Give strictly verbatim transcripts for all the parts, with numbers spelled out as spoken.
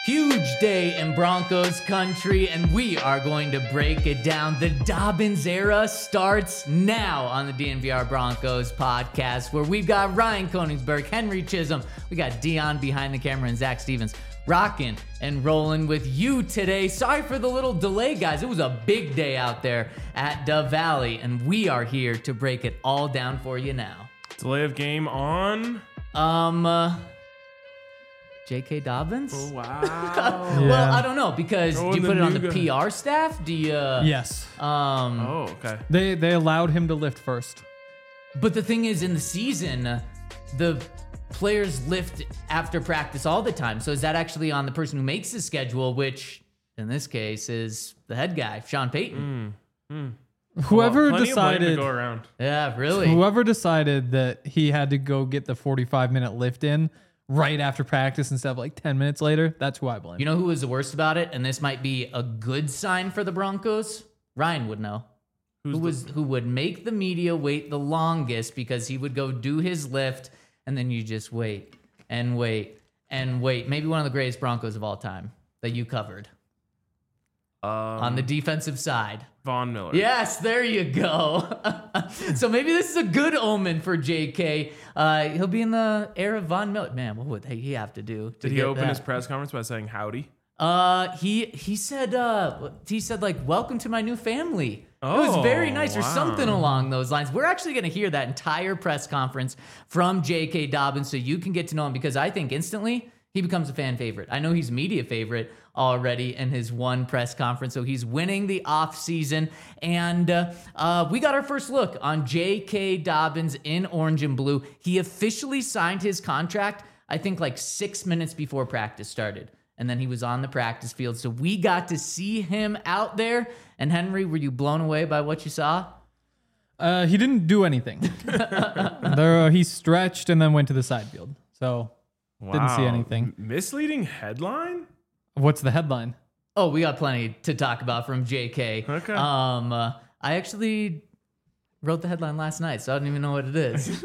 Huge day in Broncos country, and we are going to break it down. The Dobbins era starts now on the D N V R Broncos podcast, where we've got Ryan Koenigsberg, Henry Chisholm, we got Dion behind the camera, and Zach Stevens rocking and rolling with you today. Sorry for the little delay, guys. It was a big day out there at Dove Valley, and we are here to break it all down for you now. Delay of game on? Um... Uh, J K. Dobbins? Oh, wow. Well, Yeah. I don't know, because Throwing do you the put it on new the guy. P R staff? Do you? Uh, Yes. Um, Oh, okay. They they allowed him to lift first. But the thing is, in the season, uh, the players lift after practice all the time. So is that actually on the person who makes the schedule, which in this case is the head guy, Sean Payton? Whoever Well, plenty of blame to decided go around. Yeah, really. whoever decided that he had to go get the forty-five minute lift in right after practice instead of like ten minutes later, that's who I blame. You know who was the worst about it? And this might be a good sign for the Broncos. Ryan would know. Who's who the- was who would make the media wait the longest, because he would go do his lift and then you just wait and wait and wait. Maybe one of the greatest Broncos of all time that you covered Um, on the defensive side. Von Miller. Yes, there you go. So maybe this is a good omen for J K. Uh, he'll be in the era of Von Miller. Man, what would he have to do? To Did he get open that? his press conference by saying howdy? Uh, he he said uh he said like, welcome to my new family. It was very Oh, nice, or wow. something along those lines. We're actually going to hear that entire press conference from J K. Dobbins, so you can get to know him, because I think instantly he becomes a fan favorite. I know he's a media favorite already in his one press conference, so he's winning the offseason. And uh, uh, we got our first look on J K. Dobbins in orange and blue. He officially signed his contract, I think, like six minutes before practice started. And then he was on the practice field. So we got to see him out there. And Henry, were you blown away by what you saw? Uh, he didn't do anything. there, uh, he stretched and then went to the side field. So didn't see Wow. anything. M- misleading headline? What's the headline? Oh, we got plenty to talk about from J K. Okay. Um, uh, I actually wrote the headline last night, so I don't even know what it is.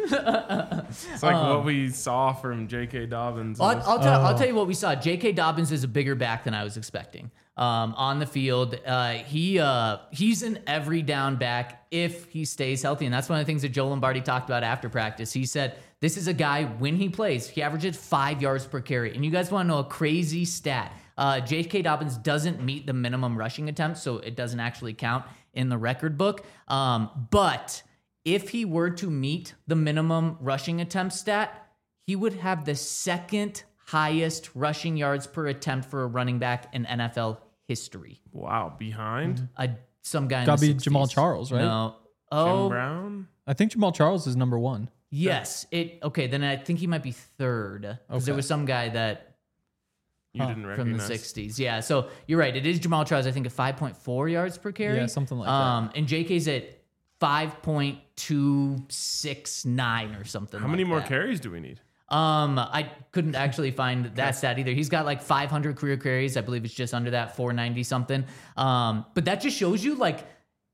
It's like what we saw from J K. Dobbins. in I'll, this- I'll, tell, I'll Oh. tell you what we saw. J K. Dobbins is a bigger back than I was expecting. Um, on the field, uh, he uh, he's an every down back if he stays healthy, and that's one of the things that Joe Lombardi talked about after practice. He said this is a guy, when he plays, he averages five yards per carry. And you guys want to know a crazy stat? Uh, J K. Dobbins doesn't meet the minimum rushing attempts, so it doesn't actually count in the record book. Um, but if he were to meet the minimum rushing attempt stat, he would have the second highest rushing yards per attempt for a running back in N F L history. wow. Behind? Uh, some guy in Gotta the be sixties. Jamal Charles, right? No. Jim Oh, Brown? I think Jamal Charles is number one. yes. It okay. Then I think he might be third, because there Okay. was some guy that You Huh. didn't from recognize. the sixties. Yeah. So you're right. It is Jamal Charles. I think at five point four yards per carry. Yeah, something like that. um, And J K's at five point two six nine or something. How like many more that. carries do we need? Um, I couldn't actually find that stat either. He's got like five hundred career carries. I believe it's just under that, four ninety something. Um, but that just shows you, like,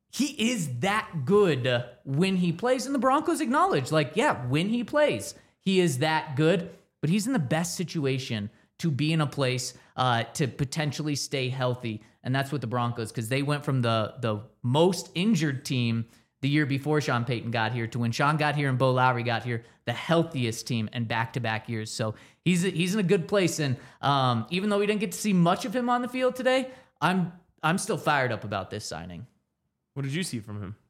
he is that good when he plays. And the Broncos acknowledge, like, yeah, when he plays, he is that good. But he's in the best situation to be in a place uh, to potentially stay healthy. And that's what the Broncos, because they went from the the most injured team the year before Sean Payton got here to when Sean got here and Bo Lowry got here, the healthiest team and back-to-back years. So he's he's in a good place. And um, even though we didn't get to see much of him on the field today, I'm I'm still fired up about this signing. What did you see from him?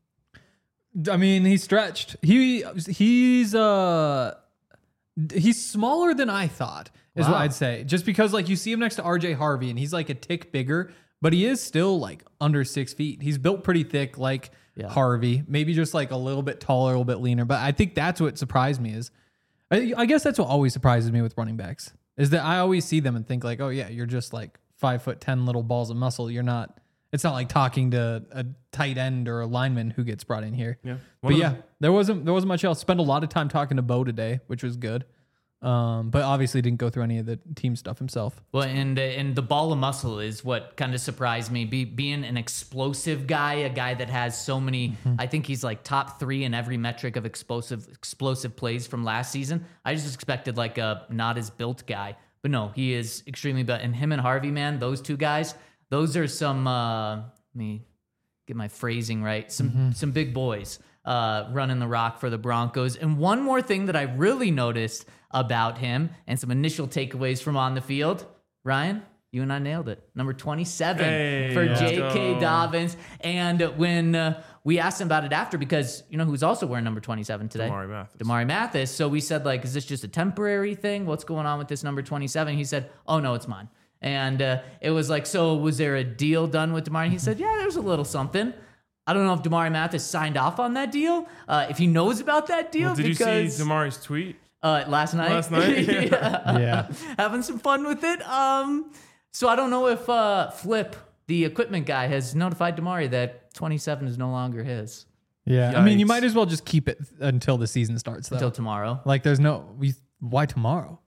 I mean, he stretched. He he's uh he's smaller than I thought, is Wow. what I'd say. Just because like you see him next to R J Harvey and he's like a tick bigger, but he is still like under six feet. He's built pretty thick, like Yeah. Harvey. Maybe just like a little bit taller, a little bit leaner. But I think that's what surprised me is, I, I guess that's what always surprises me with running backs, is that I always see them and think like, oh yeah, you're just like five foot ten little balls of muscle. You're not. It's not like talking to a tight end or a lineman who gets brought in here. Yeah. One But of yeah, the- there wasn't there wasn't much else. Spent a lot of time talking to Bo today, which was good. Um, but obviously didn't go through any of the team stuff himself. Well, and uh, and the ball of muscle is what kind of surprised me. Be, being an explosive guy, a guy that has so many, I think he's like top three in every metric of explosive explosive plays from last season. I just expected like a not as built guy, but no, he is extremely bad. And him and Harvey, man, those two guys, those are some, uh, let me get my phrasing right, some mm-hmm. some big boys uh, running the rock for the Broncos. And one more thing that I really noticed about him and some initial takeaways from on the field, Ryan, you and I nailed it. Number twenty-seven hey, for J K. go. Dobbins. And when uh, we asked him about it after, because you know who's also wearing number twenty-seven today? Damari Mathis. Damari Mathis. So we said, like, is this just a temporary thing? What's going on with this number twenty-seven? He said, oh, no, it's mine. And uh, it was like, so was there a deal done with Damari? He said, yeah, there's a little something. I don't know if Damari Mathis signed off on that deal, uh, if he knows about that deal. Well, did because, you see Damari's tweet? Uh, last night. Last night? yeah. Yeah. Having some fun with it. Um, so I don't know if uh, Flip, the equipment guy, has notified Damari that twenty-seven is no longer his Yeah. I mean, you Yikes. might as well just keep it until the season starts, though. until tomorrow. Like, there's no, we, why tomorrow?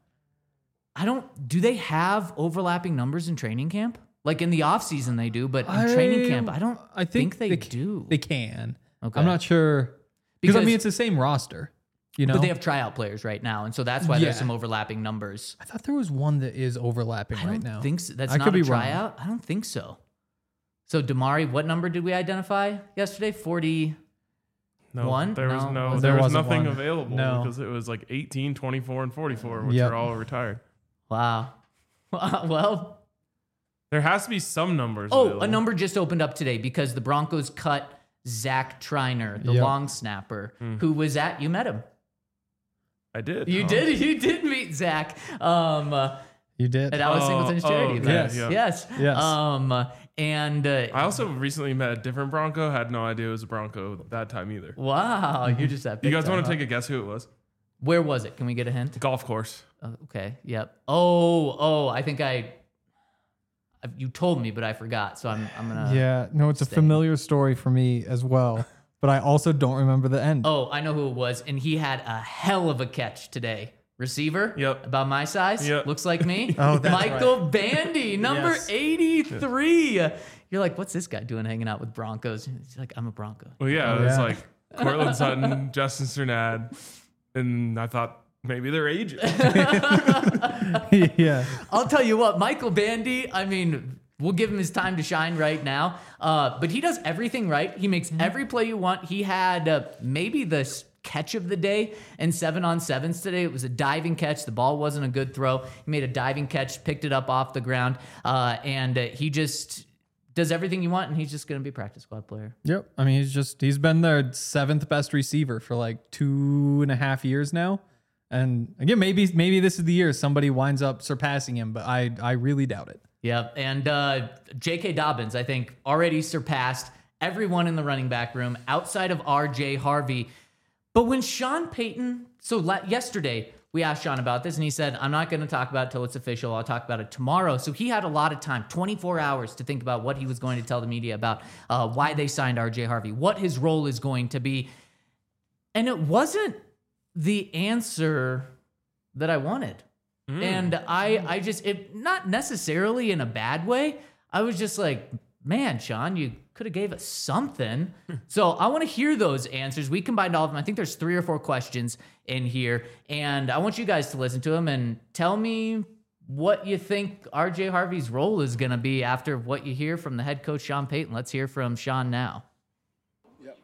I don't, do they have overlapping numbers in training camp? Like in the offseason they do, but in I- training camp, I don't I think, they, they do. They can. Okay. I'm not sure. Because, I Because- mean, it's the same roster, you know? But they have tryout players right now, and so that's why there's Yeah. some overlapping numbers. I thought there was one that is overlapping I right don't now. think so. That's I not could a be wrong. tryout. I don't think so. So Damari, what number did we identify yesterday? forty. No, One? there was No, no, was there, there was wasn't nothing one. available No. because it was like eighteen, twenty-four, and forty-four, which Yep. are all retired. Wow. Well, There has to be some numbers. oh, available. a number just opened up today because the Broncos cut Zach Triner, the Yep. long snapper, who was at, you met him. I did. You huh? did, you did meet Zach. Um, uh, You did? at Alex Oh, Singleton's oh, charity okay, event. Yes. yeah. Yes. Yes. Um, uh, and uh, I also recently met a different Bronco. Had no idea it was a Bronco that time either. wow, you're just that. You big guys time, want to huh? take a guess who it was? Where was it? Can we get a hint? Golf course. Oh, okay. Yep. Oh, oh, I think I. I- You told me, but I forgot. So I'm. I'm gonna. yeah. No, it's a stay. familiar story for me as well. But I also don't remember the end. Oh, I know who it was, and he had a hell of a catch today. Receiver. Yep. About my size. Yep. Looks like me. Oh, that's Michael Bandy, number Yes. eighty-three. You're like, what's this guy doing hanging out with Broncos? He's like, I'm a Bronco. Well, yeah, Oh, it was yeah. like Cortland Sutton, Justin Cernad, and I thought maybe they're aging. yeah. I'll tell you what, Michael Bandy, I mean, we'll give him his time to shine right now. Uh, but he does everything right. He makes every play you want. He had uh, maybe the s- catch of the day in seven on sevens today. It was a diving catch. The ball wasn't a good throw. He made a diving catch, picked it up off the ground, uh, and uh, he just does everything you want, and he's just going to be a practice squad player. Yep. I mean, he's just, he's been their seventh best receiver for like two and a half years now. And again, maybe, maybe this is the year somebody winds up surpassing him, but I, I really doubt it. Yep. And uh, J K. Dobbins, I think, already surpassed everyone in the running back room outside of R J. Harvey. But when Sean Payton, so la- yesterday we asked Sean about this and he said, I'm not going to talk about it till it's official. I'll talk about it tomorrow. So he had a lot of time, twenty-four hours to think about what he was going to tell the media about uh, why they signed R J. Harvey, what his role is going to be. And it wasn't the answer that I wanted. And I, I just, it not necessarily in a bad way. I was just like, man, Sean, you could have gave us something. So I want to hear those answers. We combined all of them. I think there's three or four questions in here, and I want you guys to listen to them and tell me what you think R J. Harvey's role is going to be after what you hear from the head coach, Sean Payton. Let's hear from Sean now. Yep.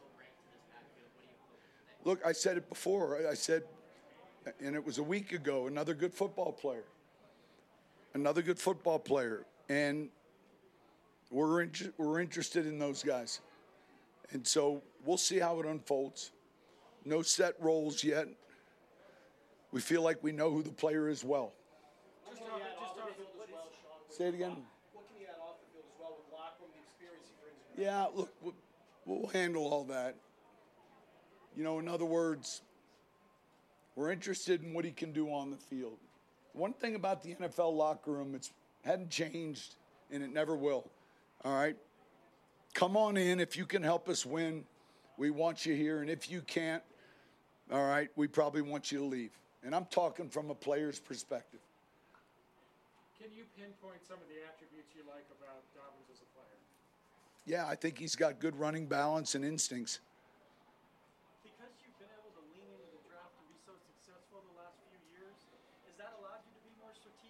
Look, I said it before. I said, and it was a week ago, another good football player. Another good football player. And we're, in, we're interested in those guys. And so we'll see how it unfolds. No set roles yet. We feel like we know who the player is well. Just on, just on the field as well, Sean. Say it again. What can he add off the field as well with locker room, the experience he brings in? Yeah, look, we'll, we'll handle all that. You know, in other words, we're interested in what he can do on the field. One thing about the N F L locker room, it's hadn't changed, and it never will. All right? Come on in. If you can help us win, we want you here. And if you can't, all right, we probably want you to leave. And I'm talking from a player's perspective. Can you pinpoint some of the attributes you like about Dobbins as a player? Yeah, I think he's got good running balance and instincts. Because you've been able to lean into the draft and be so successful the last few years, has that allowed you to be more strategic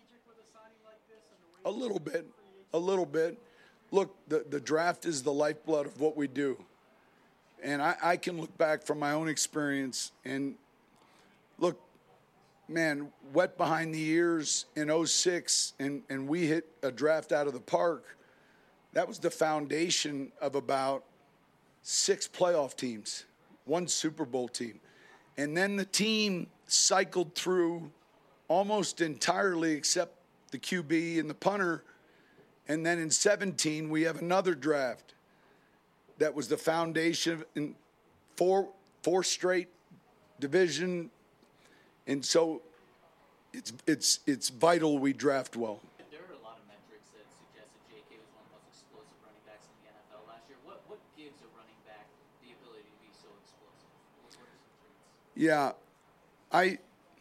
A little bit. A little bit. Look, the, the draft is the lifeblood of what we do. And I, I can look back from my own experience and look, man, wet behind the ears in oh six, and, and we hit a draft out of the park. That was the foundation of about six playoff teams, one Super Bowl team. And then the team cycled through almost entirely except the Q B and the punter. And then in seventeen, we have another draft that was the foundation in four, four straight division. And so it's, it's, it's vital we draft well. There are a lot of metrics that suggest that J K was one of the most explosive running backs in the N F L last year. What, what gives a running back the ability to be so explosive? What, what are some traits? Yeah, I.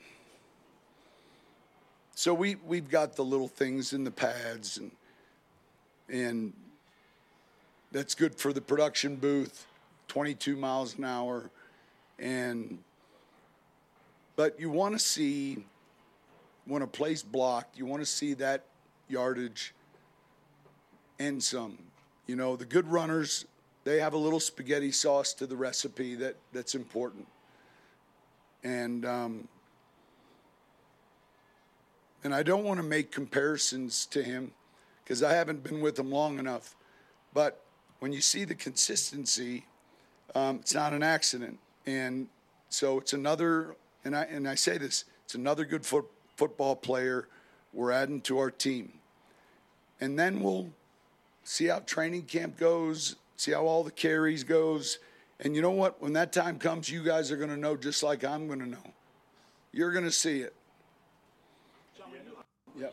So we we've got the little things in the pads, and and that's good for the production booth, twenty-two miles an hour, and but you want to see when a play's blocked, you want to see that yardage and some. You know, the good runners, they have a little spaghetti sauce to the recipe that that's important. And um, and I don't want to make comparisons to him because I haven't been with him long enough. But when you see the consistency, um, it's not an accident. And so it's another, and I and I say this, it's another good foot, football player we're adding to our team. And then we'll see how training camp goes, see how all the carries goes. And you know what? When that time comes, you guys are going to know just like I'm going to know. You're going to see it. Yep.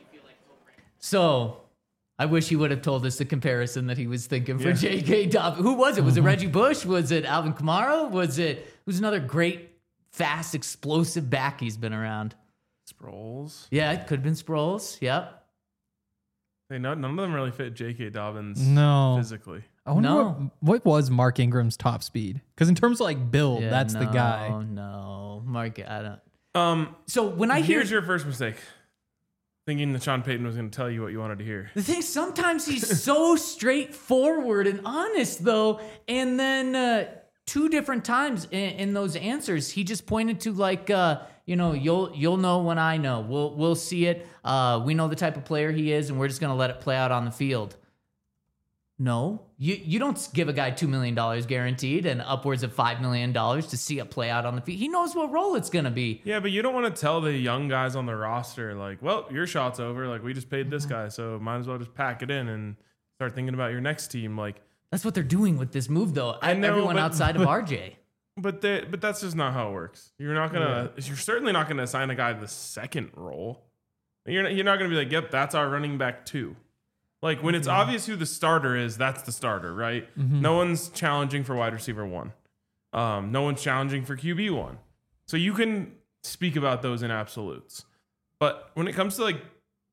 So, I wish he would have told us the comparison that he was thinking for yeah. J K. Dobbins. Who was it? Was mm-hmm. it Reggie Bush? Was it Alvin Kamara? Was it who's another great, fast, explosive back he's been around? Sproles. Yeah, it could have been Sproles. Yep. Hey, no, none of them really fit J K. Dobbins no. physically. I wonder No. what, what was Mark Ingram's top speed? Because in terms of like build, Yeah, that's no, the guy. No, Mark, I don't. Um, So when I hear here's your first mistake. Thinking that Sean Payton was going to tell you what you wanted to hear. the thing, sometimes he's so straightforward and honest, though. And then uh, two different times in, in those answers, he just pointed to like, uh, you know, you'll you'll know when I know. We'll we'll see it. Uh, we know the type of player he is, and we're just going to let it play out on the field. No, you you don't give a guy two million dollars guaranteed and upwards of five million dollars to see it play out on the field. He knows what role it's going to be. Yeah, but you don't want to tell the young guys on the roster, like, well, your shot's over. Like, we just paid this Mm-hmm. guy, so might as well just pack it in and start thinking about your next team. Like, That's what they're doing with this move, though. I know, Everyone but- outside of R J. but they, but that's just not how it works. You're not gonna. You're certainly not gonna assign a guy the second role. You're not, you're not gonna be like, yep, that's our running back too. Like when it's obvious who the starter is, that's the starter, right? No one's challenging for wide receiver one. Um, no one's challenging for Q B one. So you can speak about those in absolutes. But when it comes to like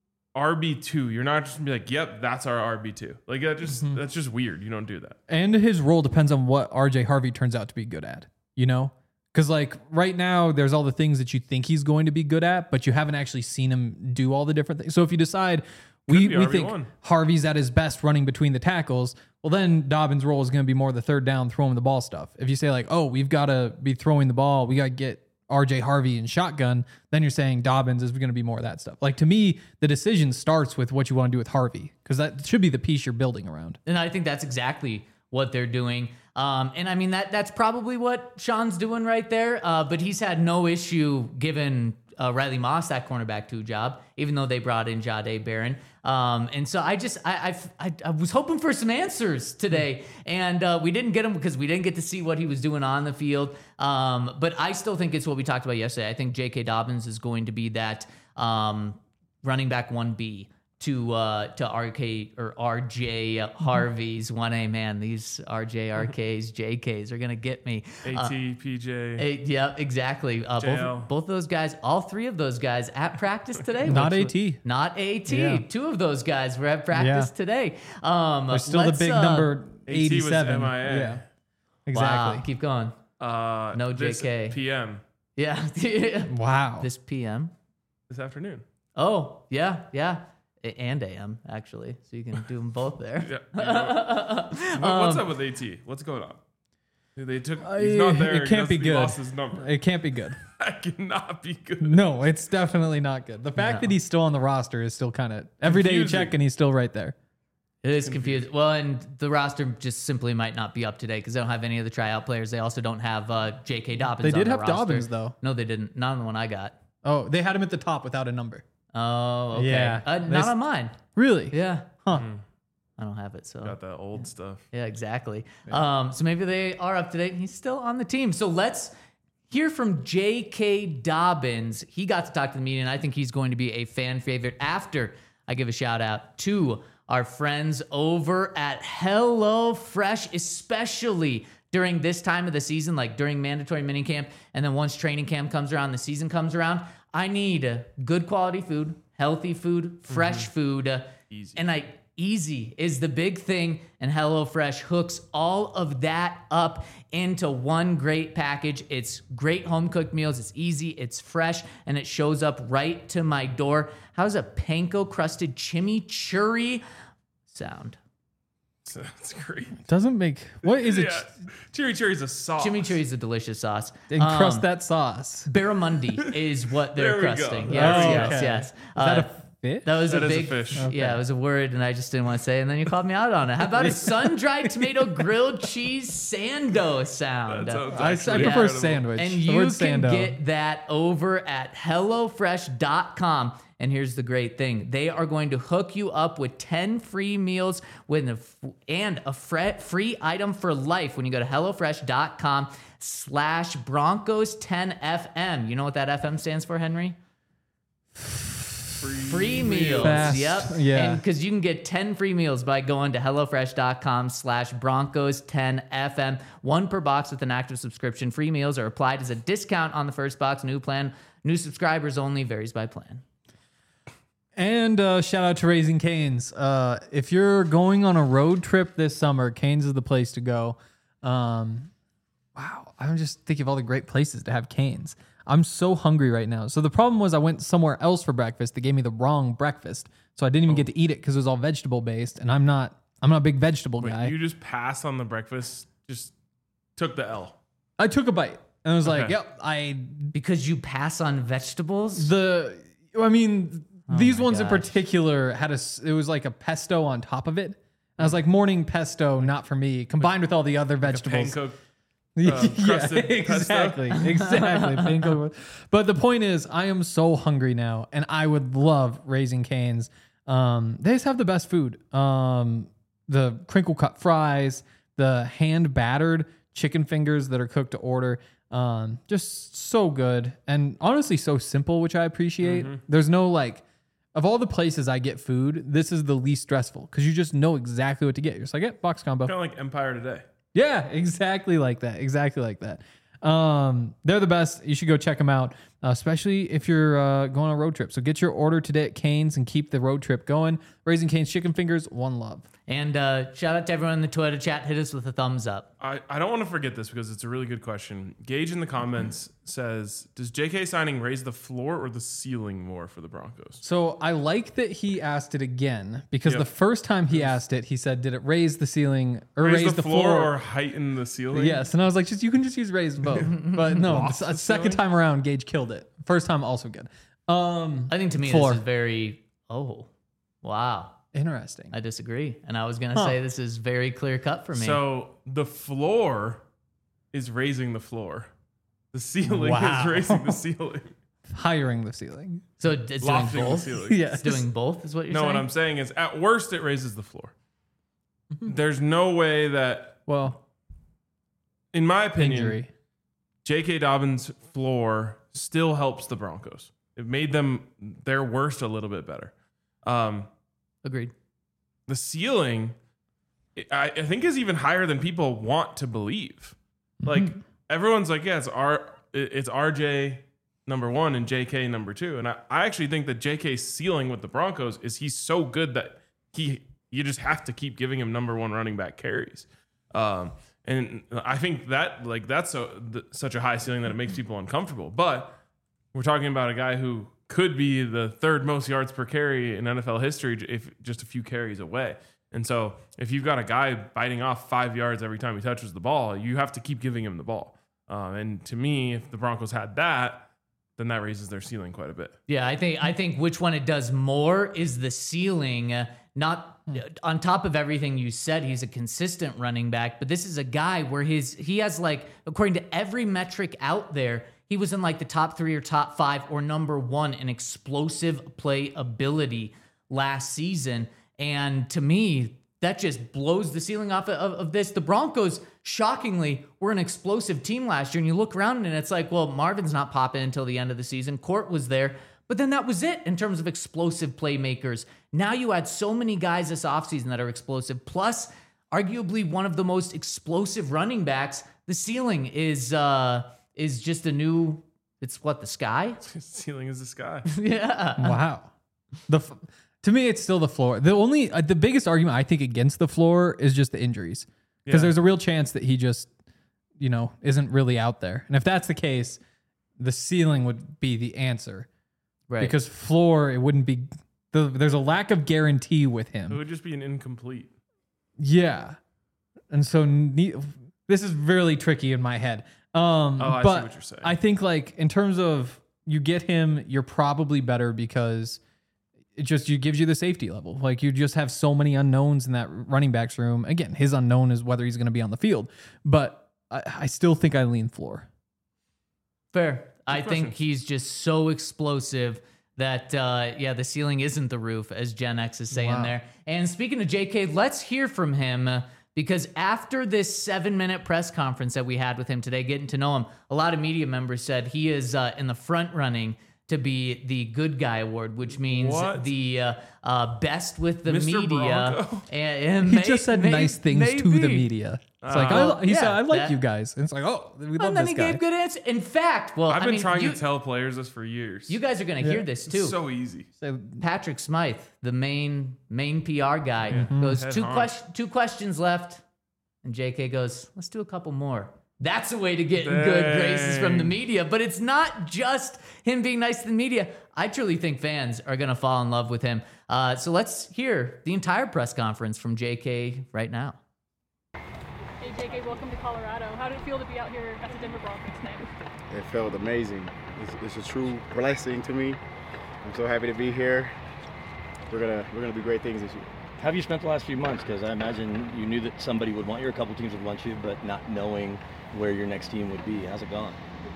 R B two, you're not just gonna be like, yep, that's our R B two. Like that just that's just weird. You don't do that. And his role depends on what R J Harvey turns out to be good at, you know? Because like right now, there's all the things that you think he's going to be good at, but you haven't actually seen him do all the different things. So if you decide we, be we R B think one. Harvey's at his best running between the tackles, well then Dobbins' role is going to be more the third down, throwing the ball stuff. If you say like, oh, we've got to be throwing the ball, we got to get R J Harvey in shotgun, then you're saying Dobbins is going to be more of that stuff. Like to me, the decision starts with what you want to do with Harvey, because that should be the piece you're building around. And I think that's exactly what they're doing. Um, and I mean, that that's probably what Sean's doing right there. Uh, but he's had no issue giving uh, Riley Moss that cornerback two job, even though they brought in Jahdae Barron. Um, and so I just, I, I've, I, I was hoping for some answers today, and uh, we didn't get them because we didn't get to see what he was doing on the field. Um, but I still think it's what we talked about yesterday. I think J K. Dobbins is going to be that um, running back one B to uh, to R K or R J Harvey's one A. Man, these R J, R Ks, J Ks are gonna get me. A T, P J. Uh, yeah, exactly. Uh, J L. both both those guys, all three of those guys at practice today. Not which was- AT. Not AT. Yeah. Two of those guys were at practice Yeah. today. Um, There's still the let's, big uh, number AT was eighty-seven. M I A. Yeah, Wow, exactly. keep going. Uh, No this J K. P M Yeah. Wow. This P M. this afternoon. Oh, yeah, yeah. A- and A M actually, so you can do them both there. Yeah. You know, what- what's up with AT? What's going on? They took. He's Uh, not there. It He can't be doesn't- he good. lost his number. It can't be good. That cannot be good. No, it's definitely not good. The fact No. that he's still on the roster is still kind of every day you Confusing. check and he's still right there. It is confusing. Well, and the roster just simply might not be up to date because they don't have any of the tryout players. They also don't have uh, J K. Dobbins. They did on have the roster. Dobbins though. No, they didn't. Not on the one I got. Oh, they had him at the top without a number. Oh, okay. Yeah. Uh, They not s- on mine. Really? Yeah. Huh. I don't have it. So Got that old stuff. yeah, exactly. Um, so maybe they are up to date. He's still on the team. So let's hear from J K. Dobbins. He got to talk to the media, and I think he's going to be a fan favorite after I give a shout out to our friends over at HelloFresh, especially during this time of the season, like during mandatory minicamp, and then once training camp comes around, the season comes around. I need good quality food, healthy food, fresh food, uh, Easy. and I. Easy is the big thing, and HelloFresh hooks all of that up into one great package. It's great home cooked meals. It's easy, it's fresh, and it shows up right to my door. How's a panko crusted chimichurri sound? That's great. Doesn't make what is it? Yeah. Chimichurri is a sauce. Chimichurri is a delicious sauce. Encrust Um, that sauce. Barramundi is what they're There we go. crusting. Oh, Yes, yes, okay. yes. Is that Uh, a fish? That was That a is a big fish. Yeah, it was a word, and I just didn't want to say it, and then you called me out on it. How about a sun-dried tomato grilled cheese sando sound? That sounds I, I actually prefer incredible. sandwich. And The you word can sando. get that over at HelloFresh dot com. And here's the great thing. They are going to hook you up with ten free meals with a f- and a fre- free item for life when you go to HelloFresh dot com slash Broncos ten F M. You know what that F M stands for, Henry? Free meals. Fast, Yep. yeah. And because you can get ten free meals by going to HelloFresh dot com slash Broncos ten F M. One per box with an active subscription. Free meals are applied as a discount on the first box. New plan. New subscribers only. Varies by plan. And uh, shout out to Raising Canes. Uh, if you're going on a road trip this summer, Canes is the place to go. Um, wow, I'm just thinking of all the great places to have Canes. I'm so hungry right now. So the problem was I went somewhere else for breakfast. They gave me the wrong breakfast, so I didn't even get to eat it because it was all vegetable based, and I'm not. I'm not a big vegetable Wait, guy. you just passed on the breakfast. Just took the L. I took a bite and I was like, Okay. "Yep, I Because you pass on vegetables? the." I mean, these my ones in gosh. particular had a. s- It was like a pesto on top of it. I was like, morning pesto, not for me. Combined with all the other vegetables. Panko. yeah, crusted pesto? exactly, exactly. Panko. But the point is, I am so hungry now, and I would love Raising Cane's. Um, they just have the best food. Um, the crinkle cut fries, the hand battered chicken fingers that are cooked to order. Um, just so good, and honestly, so simple, which I appreciate. There's no like. Of all the places I get food, this is the least stressful because you just know exactly what to get. You're just like, yeah, box combo. Kind of like Empire Today. Yeah, exactly like that. Exactly like that. Um, they're the best. You should go check them out, uh, especially if you're uh, going on a road trip. So get your order today at Cane's and keep the road trip going. Raising Cane's Chicken Fingers, one love. And uh, shout out to everyone in the Twitter chat. Hit us with a thumbs up. I, I don't want to forget this because it's a really good question. Gage in the comments says, does J K signing raise the floor or the ceiling more for the Broncos? So I like that he asked it again because Yep. the first time he asked it, he said, "Did it raise the ceiling or Raise, raise, the, floor, or heighten the ceiling? Yes, and I was like, just you can just use raise both. But no, the, the second ceiling? time around, Gage killed it. First time also good. Um, I think to me Floor. this is very, oh, wow. interesting. I disagree. And I was going to Huh. say this is very clear cut for me. So the floor is raising the floor. The ceiling Wow. is raising the ceiling. Hiring the ceiling. So it's doing Lofting the both? ceiling. Yes. It's doing both is what you're No, saying? what I'm saying is at worst it raises the floor. There's no way that, Well, in my opinion, injury. J K. Dobbins' floor still helps the Broncos. It made them their worst a little bit better. Um, Agreed. the ceiling, I, I think, is even higher than people want to believe. Like everyone's like, yeah, it's R, it's R J number one and J K number two, and I, I actually think that J K's ceiling with the Broncos is he's so good that he you just have to keep giving him number one running back carries. Um, and I think that like that's so th- such a high ceiling that it makes people uncomfortable. But we're talking about a guy who could be the third most yards per carry in N F L history if just a few carries away. And so if you've got a guy biting off five yards every time he touches the ball, you have to keep giving him the ball. Um, and to me, if the Broncos had that, then that raises their ceiling quite a bit. Yeah, I think I think which one it does more is the ceiling. Uh, not uh, on top of everything you said, he's a consistent running back, but this is a guy where his he has like, according to every metric out there, he was in like the top three or top five or number one in explosive play ability last season. And to me, that just blows the ceiling off of, of this. The Broncos, shockingly, were an explosive team last year. And you look around and it's like, well, Marvin's not popping until the end of the season. Court was there. But then that was it in terms of explosive playmakers. Now you had so many guys this offseason that are explosive. Plus, arguably one of the most explosive running backs. The ceiling is uh, is just a new, it's what, the sky? Ceiling is the sky. Yeah. Wow. The f- to me, it's still the floor. The only uh, the biggest argument I think against the floor is just the injuries, because Yeah. there's a real chance that he just, you know, isn't really out there. And if that's the case, the ceiling would be the answer. Right. Because floor, it wouldn't be. The, there's a lack of guarantee with It him. would just be an incomplete. Yeah, and so ne- this is really tricky in my head. Um, Oh, I see but what you're saying. I think like in terms of you get him, you're probably better because it just you gives you the safety level. Like you just have so many unknowns in that running backs room. Again, his unknown is whether he's going to be on the field, but I, I still think I lean floor. Fair. I think questions. he's just so explosive that, uh, yeah, the ceiling isn't the roof, as Gen X is saying Wow. there. And speaking of J K, let's hear from him uh, because after this seven minute press conference that we had with him today, getting to know him, a lot of media members said he is uh, in the front running to be the good guy award, which means What? the uh, uh, best with the Mister media. Bronco? And, and He may- just said may- nice things to the maybe. media. It's like Uh, I, he said, yeah, "I like that- you guys." And it's like, oh, we love And then this he guy. gave good answers. In fact, well, I've I been mean, trying you, to tell players this for years. you guys are going to hear this too. It's so easy. So, Patrick Smythe, the main main P R guy, goes Head two honk. question two questions left, and J K goes, "Let's do a couple more." That's a way to get in good graces from the Dang. media, but it's not just him being nice to the media. I truly think fans are gonna fall in love with him. Uh, so let's hear the entire press conference from J K right now. Hey J K, welcome to Colorado. How did it feel to be out here at the Denver Broncos today? It felt amazing. It's, it's a true blessing to me. I'm so happy to be here. We're gonna we're gonna do great things this year. How have you spent the last few months? Because I imagine you knew that somebody would want you, or a couple teams would want you, but not knowing where your next team would be. How's it gone?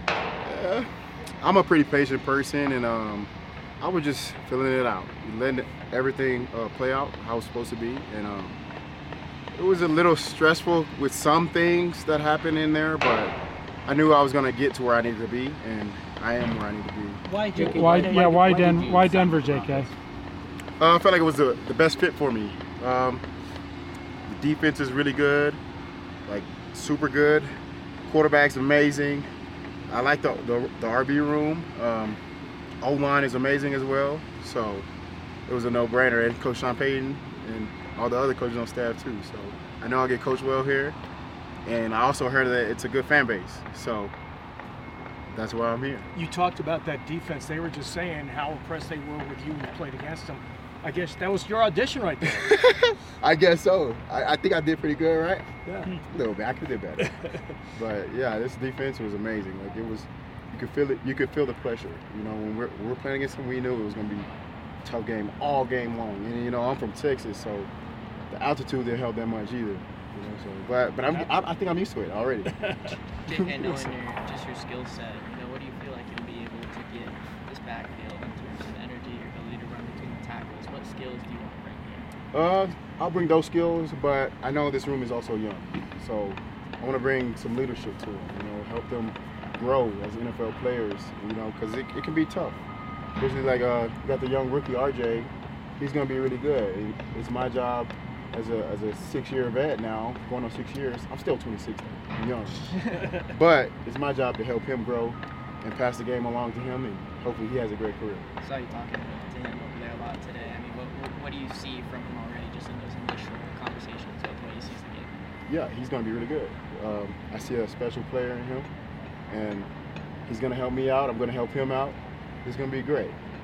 Uh, I'm a pretty patient person, and um, I was just filling it out, letting everything uh, play out how it's supposed to be. And um, it was a little stressful with some things that happened in there, but I knew I was gonna get to where I needed to be, and I am where I need to be. Why, J K? Why, yeah, why, did Den- you why sign Denver, with the J K? Broncos? Uh, I felt like it was the, the best fit for me. Um, the defense is really good, like super good. Quarterback's amazing. I like the the, the R B room. Um, O-line is amazing as well. So it was a no-brainer. And Coach Sean Payton and all the other coaches on staff too. So I know I'll get coached well here. And I also heard that it's a good fan base. So that's why I'm here. You talked about that defense. They were just saying how impressed they were with you when you played against them. I guess that was your audition right there. I guess so. I, I think I did pretty good, right? Yeah. A little bit. I could have did better. But yeah, this defense was amazing. Like it was, you could feel it. You could feel the pressure. You know, when we're, when we're playing against them, we knew it was going to be a tough game all game long. And you know, I'm from Texas, so the altitude didn't help that much either. You know, so but but I'm, I, I think I'm used to it already. And knowing your just your skill set, you know, what do you feel like you'll be able to get this backfield in terms of energy, your ability to run between the tackles? What skills do you want to bring here? Uh, I'll bring those skills, but I know this room is also young, so I want to bring some leadership to them. You know, help them grow as N F L players. You know, because it, it can be tough. Especially like uh, you got the young rookie R J. He's gonna be really good. It, it's my job as a as a six-year vet now, going on six years. I'm still twenty-six. Though. I'm young, but it's my job to help him grow and pass the game along to him, and hopefully he has a great career. I saw you talking to him over there a lot today. I mean, what, what, what do you see from him already, just in those initial conversations with what he sees the game? Yeah, he's going to be really good. Um, I see a special player in him, and he's going to help me out. I'm going to help him out. It's going to be great.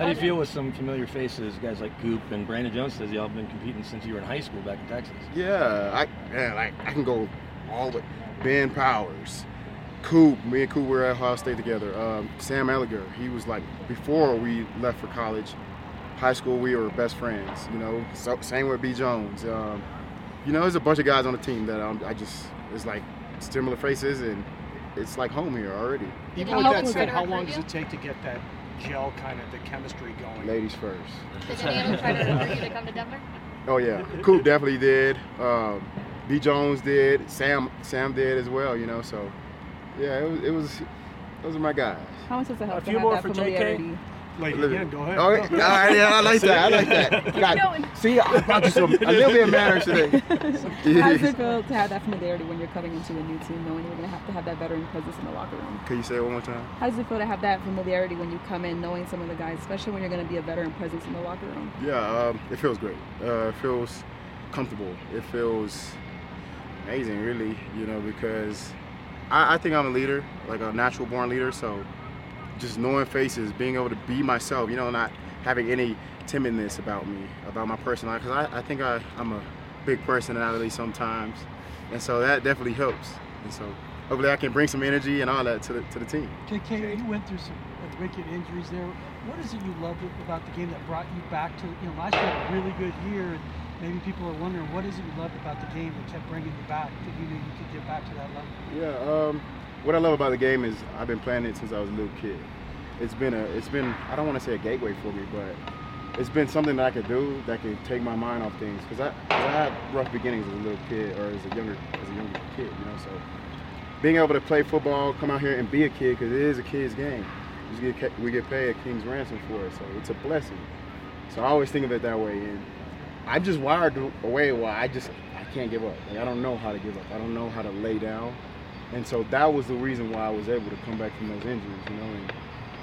How do you feel with some familiar faces, guys like Goop and Brandon Jones says y'all have been competing since you were in high school back in Texas? Yeah, I man, like I can go all the way. Ben Powers, Coop, me and Coop were at Ohio State together. Um, Sam Elliger, he was like before we left for college. High school, we were best friends. You know, so, same with B Jones. Um, you know, there's a bunch of guys on the team that um, I just it's like similar faces, and it's like home here already. Even with that said, how long does it take to get that gel kind of the chemistry going? Ladies first. Did any of them try to recruit you to come to Denver? Oh yeah, Coop definitely did. Um, B Jones did. Sam Sam did as well. You know, so yeah, it was. It was those are my guys. How much does it help A to few have more that for J K. familiarity? Like, again, go ahead. Oh, all right, yeah, I like that. I like that. God, see, I brought you some a little bit of manners today. How does it feel to have that familiarity when you're coming into a new team, knowing you're going to have to have that veteran presence in the locker room? Can you say it one more time? How does it feel to have that familiarity when you come in, knowing some of the guys, especially when you're going to be a veteran presence in the locker room? Yeah, um, it feels great. Uh, it feels comfortable. It feels amazing, really, you know, because I, I think I'm a leader, like a natural born leader, so just knowing faces, being able to be myself, you know, not having any timidness about me, about my personality, because I, I think I, I'm a big personality sometimes, and so that definitely helps. And so hopefully I can bring some energy and all that to the, to the team. J K, you went through some wicked injuries there. What is it you loved about the game that brought you back to, you know, last year had a really good year, and maybe people are wondering, what is it you loved about the game that kept bringing you back, that you knew you could get back to that level? Yeah, um, what I love about the game is I've been playing it since I was a little kid. It's been a, it's been, I don't want to say a gateway for me, but it's been something that I could do that could take my mind off things. Because I, I had rough beginnings as a little kid, or as a younger, as a younger kid, you know. So being able to play football, come out here and be a kid, because it is a kid's game. We get, we get paid a king's ransom for it, so it's a blessing. So I always think of it that way, and I'm just wired a way where I just, I can't give up. Like, I don't know how to give up. I don't know how to lay down. And so that was the reason why I was able to come back from those injuries, you know. And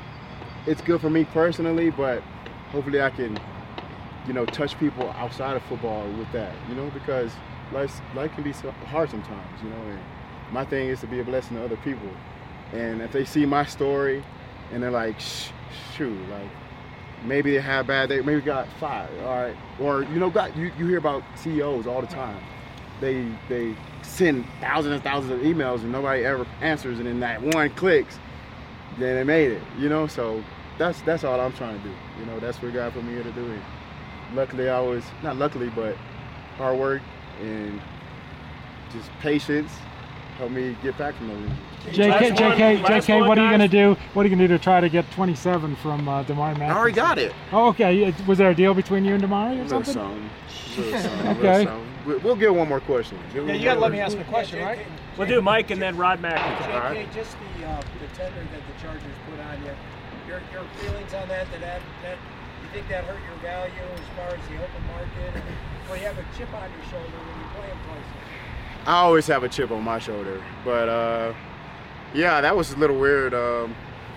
it's good for me personally, but hopefully I can, you know, touch people outside of football with that, you know, because life, life can be so hard sometimes, you know. And my thing is to be a blessing to other people. And if they see my story and they're like, Shh, shoot, like, maybe they have bad, they maybe got fired, all right? Or, you know, got, you, you hear about C E Os all the time. They, they send thousands and thousands of emails and nobody ever answers, and then that one clicks, then they made it, you know? So that's that's all I'm trying to do. You know, that's what God put me here to do. And luckily I was, not luckily, but hard work and just patience helped me get back from those injuries. J K, J K, J K, what are you going to do? What are you going to do to try to get twenty-seven from uh, Damari Mathis? I already got it. Oh, okay. Was there a deal between you and Damari or Little something? something. Little something. Okay. Little something. We'll get one more question. Give Yeah, me you got to one let me more. ask the question, right? We'll do Mike and then Rod Mack. J K, All right. just the uh, the tender that the Chargers put on you. Your your feelings on that? That that, that you think that hurt your value as far as the open market? And, well, you have a chip on your shoulder when you play in places. I always have a chip on my shoulder, but uh, yeah, that was a little weird. Um,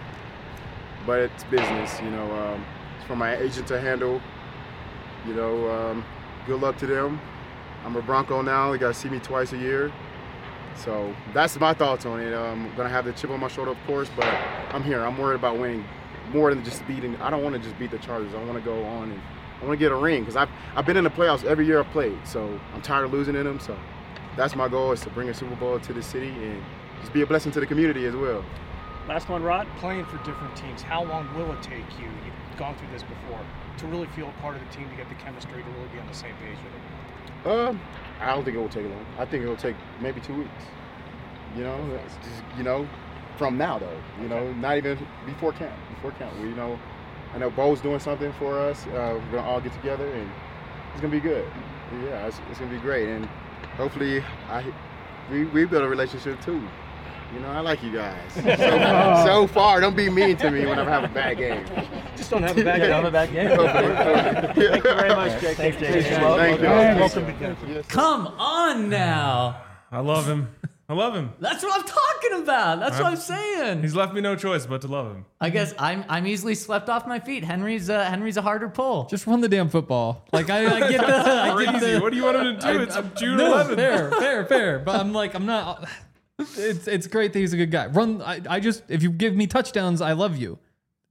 but it's business, you know. Um, it's for my agent to handle. You know, um, good luck to them. I'm a Bronco now. They got to see me twice a year. So that's my thoughts on it. I'm going to have the chip on my shoulder, of course, but I'm here. I'm worried about winning more than just beating. I don't want to just beat the Chargers. I want to go on and I want to get a ring because I've, I've been in the playoffs every year I've played. So I'm tired of losing in them. So that's my goal, is to bring a Super Bowl to the city and just be a blessing to the community as well. Last one, Rod. Playing for different teams, how long will it take you, you've gone through this before, to really feel a part of the team, to get the chemistry, to really be on the same page with it? Um, I don't think it will take long. I think it will take maybe two weeks. You know, it's just, you know, from now though. You know, not even before camp. Before camp, we, you know, I know Bo's doing something for us. Uh, we're gonna all get together, and it's gonna be good. Yeah, it's, it's gonna be great, and hopefully, I we we build a relationship too. You know, I like you guys. So, so far, don't be mean to me whenever I have a bad game. Just don't have a bad game. Don't have a bad game. Thank you very much, J K. Thanks, J K. Thank you. Welcome to Denver. Yes, sir. Come on now. I love him. I love him. That's what I'm talking about. That's what I'm saying. He's left me no choice but to love him. I guess I'm I'm easily swept off my feet. Henry's uh, Henry's a harder pull. Just run the damn football. Like I, I get the, I get Crazy. the, What do you want him to do? I- It's I- June no, eleventh. Fair, fair, fair. But I'm like, I'm not. It's it's great that he's a good guy. Run. I, I just if you give me touchdowns, I love you.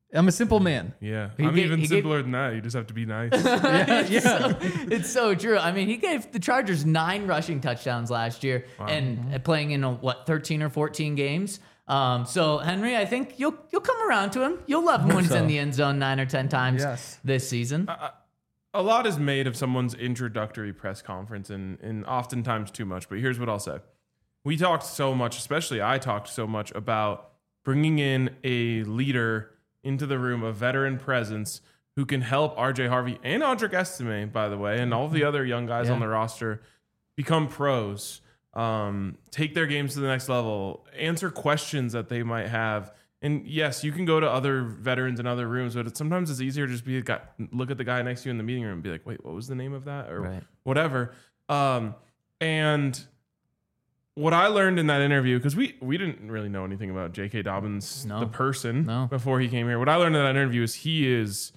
I'm a simple man. Yeah, He I'm gave- even he gave- simpler than that. You just have to be nice. yeah, It's so, it's so true. I mean, he gave the Chargers nine rushing touchdowns last year, and uh, playing in uh, what thirteen or fourteen games. Um, so Henry, I think you'll you'll come around to him. You'll love him when he's so. in the end zone nine or ten times Yes. this season. A lot is made of someone's introductory press conference, and, and oftentimes too much. But here's what I'll say. We talked so much, especially I talked so much about bringing in a leader into the room, a veteran presence who can help R J Harvey and Audric Estime, by the way, and all the other young guys Yeah. on the roster become pros, um, take their games to the next level, answer questions that they might have. And yes, you can go to other veterans in other rooms, but it's, sometimes it's easier to just be a guy, look at the guy next to you in the meeting room and be like, wait, what was the name of that? Or Right. whatever. Um, and what I learned in that interview, because we, we didn't really know anything about J K. Dobbins, No. the person, No. before he came here. What I learned in that interview is he is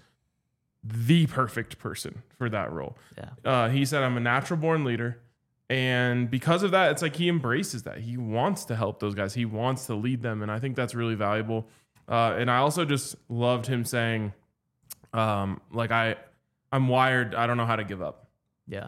the perfect person for that role. Yeah. Uh, he said, I'm a natural born leader. And because of that, it's like he embraces that. He wants to help those guys. He wants to lead them. And I think that's really valuable. Uh, and I also just loved him saying, um, like, I, I'm wired. I don't know how to give up. Yeah.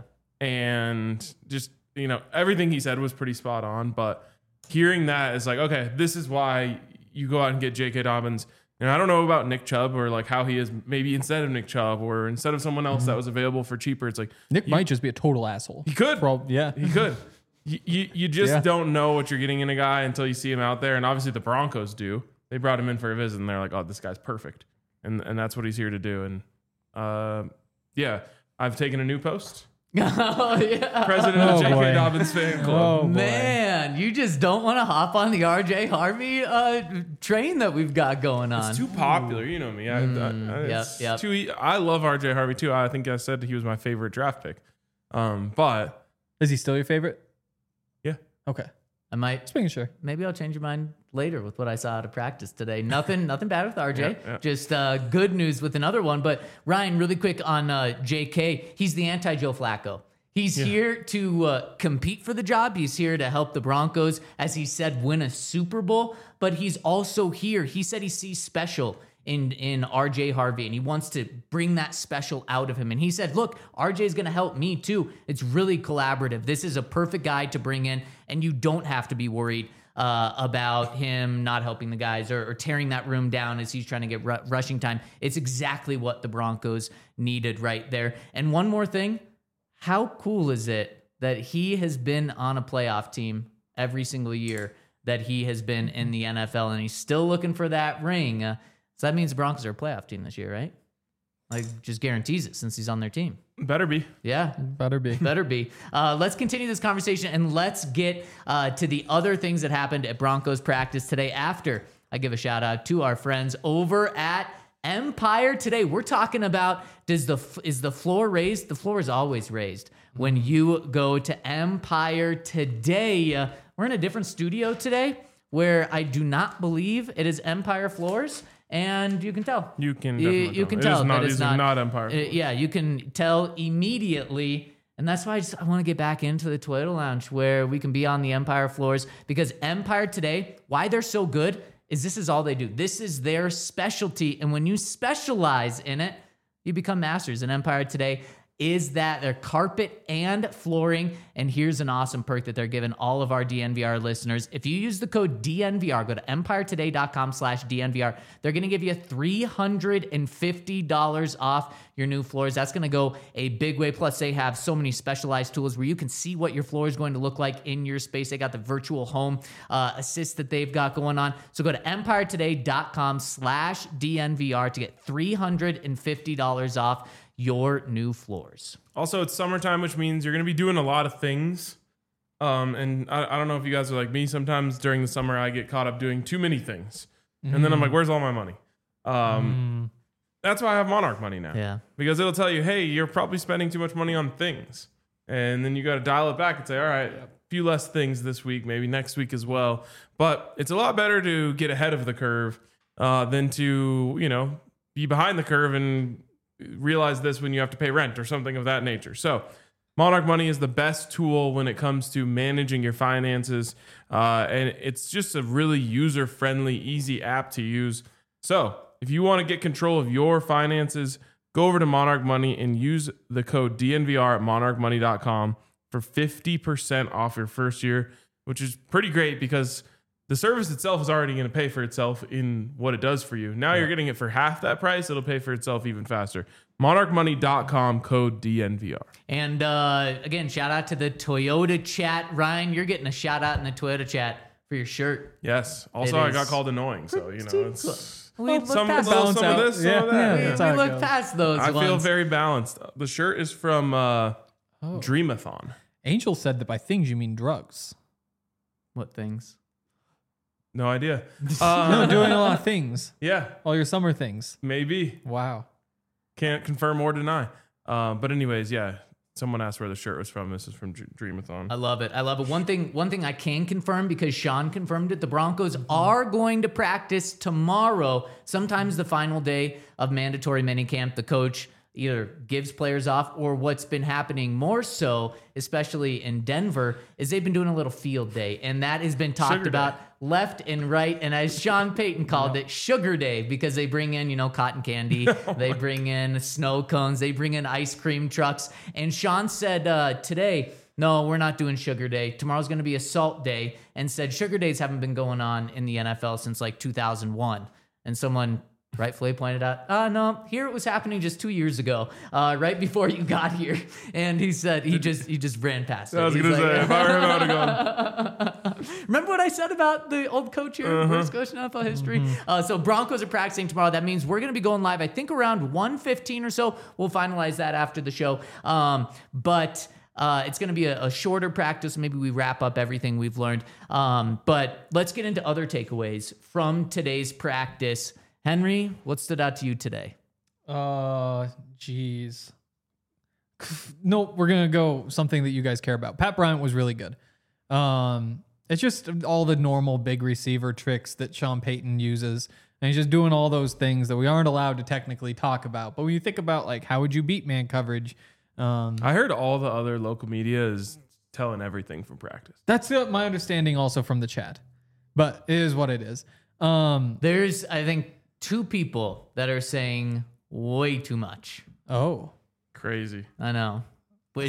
And just, you know, everything he said was pretty spot on. But hearing that is like, okay, this is why you go out and get J K. Dobbins. And I don't know about Nick Chubb or like how he is maybe instead of Nick Chubb or instead of someone else that was available for cheaper. It's like Nick you- might just be a total asshole. He could. Prob- yeah. He could. You, you, you just Yeah. don't know what you're getting in a guy until you see him out there. And obviously the Broncos do. They brought him in for a visit and they're like, oh, this guy's perfect. And and that's what he's here to do. And uh, yeah, I've taken a new post. Oh yeah. President Oh, of J K. boy. Dobbins fan club. Oh, boy. Man, you just don't want to hop on the R J Harvey uh, train that we've got going on. It's too popular, you know me. I, I, I, yep, it's yep. too e- I love R J Harvey too. I think I said he was my favorite draft pick. Um, but Is he still your favorite? yeah, Okay. I might Just making sure. maybe I'll change your mind later with what I saw out of practice today. Nothing, nothing bad with R J. Yeah, yeah. Just uh, good news with another one. But Ryan, really quick on uh, J K. He's the anti-Joe Flacco. He's here to uh, compete for the job. He's here to help the Broncos, as he said, win a Super Bowl. But he's also here. He said he sees special in in R J Harvey, and he wants to bring that special out of him. And he said, look, R J is going to help me too. It's really collaborative. This is a perfect guy to bring in, and you don't have to be worried uh, about him not helping the guys or, or tearing that room down as he's trying to get ru- rushing time. It's exactly what the Broncos needed right there. And one more thing, how cool is it that he has been on a playoff team every single year that he has been in the N F L, and he's still looking for that ring? Uh, so that means the Broncos are a playoff team this year, right? Like, just guarantees it since he's on their team. better be. Yeah. Better be. Better be. Uh, let's continue this conversation and let's get uh, to the other things that happened at Broncos practice today after I give a shout out to our friends over at Empire Today. We're talking about, does the is the floor raised? The floor is always raised when you go to Empire Today. Uh, we're in a different studio today where I do not believe it is Empire floors. And you can tell. You can You, definitely you tell. can It tell is not- that it's these not, are not Empire uh, floors. yeah, you can tell immediately. And that's why I just I want to get back into the Toyota Lounge where we can be on the Empire floors, because Empire Today, why they're so good is this is all they do. This is their specialty. And when you specialize in it, you become masters. And Empire Today is that their carpet and flooring. And here's an awesome perk that they're giving all of our D N V R listeners. If you use the code D N V R, go to empire today dot com slash D N V R. They're going to give you three hundred fifty dollars off your new floors. That's going to go a big way. Plus, they have so many specialized tools where you can see what your floor is going to look like in your space. They got the virtual home uh, assist that they've got going on. So go to empire today dot com slash D N V R to get three hundred fifty dollars off your new floors. Also, it's summertime, which means you're going to be doing a lot of things. Um, and I, I don't know if you guys are like me. Sometimes during the summer, I get caught up doing too many things. And then I'm like, where's all my money? Um, That's why I have Monarch Money now. Yeah. Because it'll tell you, hey, you're probably spending too much money on things. And then you got to dial it back and say, all right, a few less things this week, maybe next week as well. But it's a lot better to get ahead of the curve uh, than to, you know, be behind the curve and realize this when you have to pay rent or something of that nature. So Monarch Money is the best tool when it comes to managing your finances. Uh, and it's just a really user-friendly, easy app to use. So if If you want to get control of your finances, go over to Monarch Money and use the code D N V R at monarch money dot com for fifty percent off your first year, which is pretty great because the service itself is already going to pay for itself in what it does for you. Now yeah. you're getting it for half that price. It'll pay for itself even faster. monarch money dot com, code D N V R. And uh, again, shout out to the Toyota chat. Ryan, you're getting a shout out in the Toyota chat for your shirt. Yes. Also, It I is got called annoying, so, you know, it's... We look some, past little, those. some of this, some Yeah, of that. yeah, Yeah. that's how We it look goes. past those I feel ones. very balanced. The shirt is from uh, Oh. Dreamathon. Angel said that by things you mean drugs. What things? No idea. no, Uh, doing a lot of things. yeah, All your summer things. maybe. Wow. Can't confirm or deny. Uh, but anyways, yeah. Someone asked where the shirt was from. This is from Dr- Dreamathon. I love it. I love it. One thing, one thing I can confirm because Sean confirmed it. The Broncos are going to practice tomorrow. Sometimes the final day of mandatory minicamp, the coach either gives players off, or what's been happening more so, especially in Denver, is they've been doing a little field day, and that has been talked Sugar about day. left and right. And as Sean Payton called it, Sugar Day, because they bring in, you know, cotton candy, they bring in snow cones, they bring in ice cream trucks. And Sean said uh, today, no, we're not doing Sugar Day. Tomorrow's going to be a Salt Day, and said Sugar Days haven't been going on in the N F L since like two thousand one. And someone rightfully pointed out, uh, no, here it was happening just two years ago, uh, right before you got here. And he said he just he just ran past it. I was He's going to like- say, if I were him, I would have gone. Remember what I said about the old coach here, Uh-huh. first coach in N F L history? Uh, so Broncos are practicing tomorrow. That means we're going to be going live, I think, around one fifteen or so. We'll finalize that after the show. Um, but uh, it's going to be a, a shorter practice. Maybe we wrap up everything we've learned. Um, but let's get into other takeaways from today's practice. Henry, what stood out to you today? Uh, jeez. No, we're gonna go something that you guys care about. Pat Bryant was really good. Um, it's just all the normal big receiver tricks that Sean Payton uses, and he's just doing all those things that we aren't allowed to technically talk about. But when you think about like how would you beat man coverage, um, I heard all the other local media is telling everything from practice. that's uh, my understanding also from the chat. But it is what it is. Um, There's, I think, two people that are saying way too much. oh, Crazy. I know. Wait.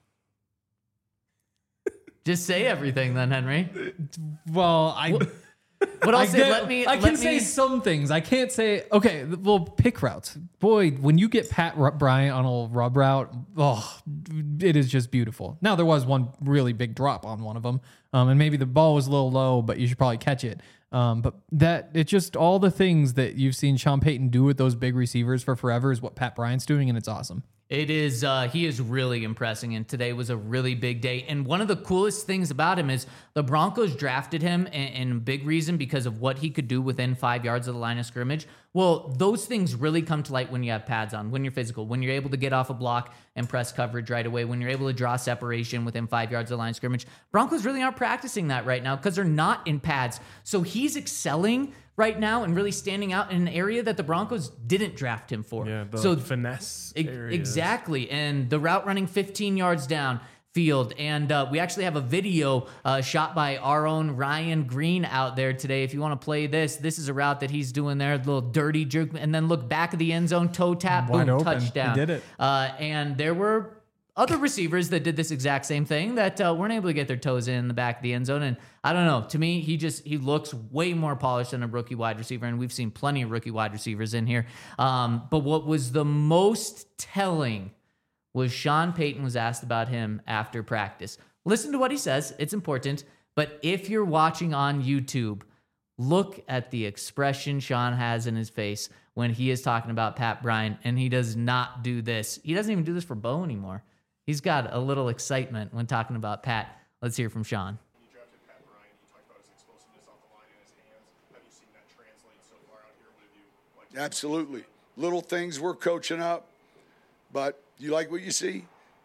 Just say everything then, Henry. well, I. But I'll I say, get- let me. I let can me, say some things. I can't say okay. Well, pick routes. Boy, when you get Pat R- Bryant on a rub route, oh, it is just beautiful. Now there was one really big drop on one of them, um, and maybe the ball was a little low, but you should probably catch it. Um, but that it's just all the things that you've seen Sean Payton do with those big receivers for forever is what Pat Bryant's doing, and it's awesome. It is, uh, he is really impressing, and today was a really big day. And one of the coolest things about him is the Broncos drafted him, and, and big reason because of what he could do within five yards of the line of scrimmage. Well, those things really come to light when you have pads on, when you're physical, when you're able to get off a block and press coverage right away, when you're able to draw separation within five yards of the line of scrimmage. Broncos really aren't practicing that right now because they're not in pads. So he's excelling right now and really standing out in an area that the Broncos didn't draft him for. Yeah, the so finesse e- areas. exactly. And the route running fifteen yards down field. And uh, we actually have a video uh, shot by our own Ryan Green out there today. If you want to play this, this is a route that he's doing there, a little dirty jerk, and then look back of the end zone, toe tap, Wide boom, open. touchdown. He did it. Uh, and there were other receivers that did this exact same thing that uh, weren't able to get their toes in the back of the end zone. And I don't know, to me, he just, he looks way more polished than a rookie wide receiver. And we've seen plenty of rookie wide receivers in here. Um, but what was the most telling was Sean Payton was asked about him after practice. Listen to what he says. It's important. But if you're watching on YouTube, look at the expression Sean has in his face when he is talking about Pat Bryant, and he does not do this. He doesn't even do this for Bo anymore. He's got a little excitement when talking about Pat. Let's hear from Sean. You drafted Pat Bryant. You talked about his explosiveness off the line and his hands. Have you seen that translate so far out here? What have you liked? Absolutely. Little things we're coaching up, but you like what you see?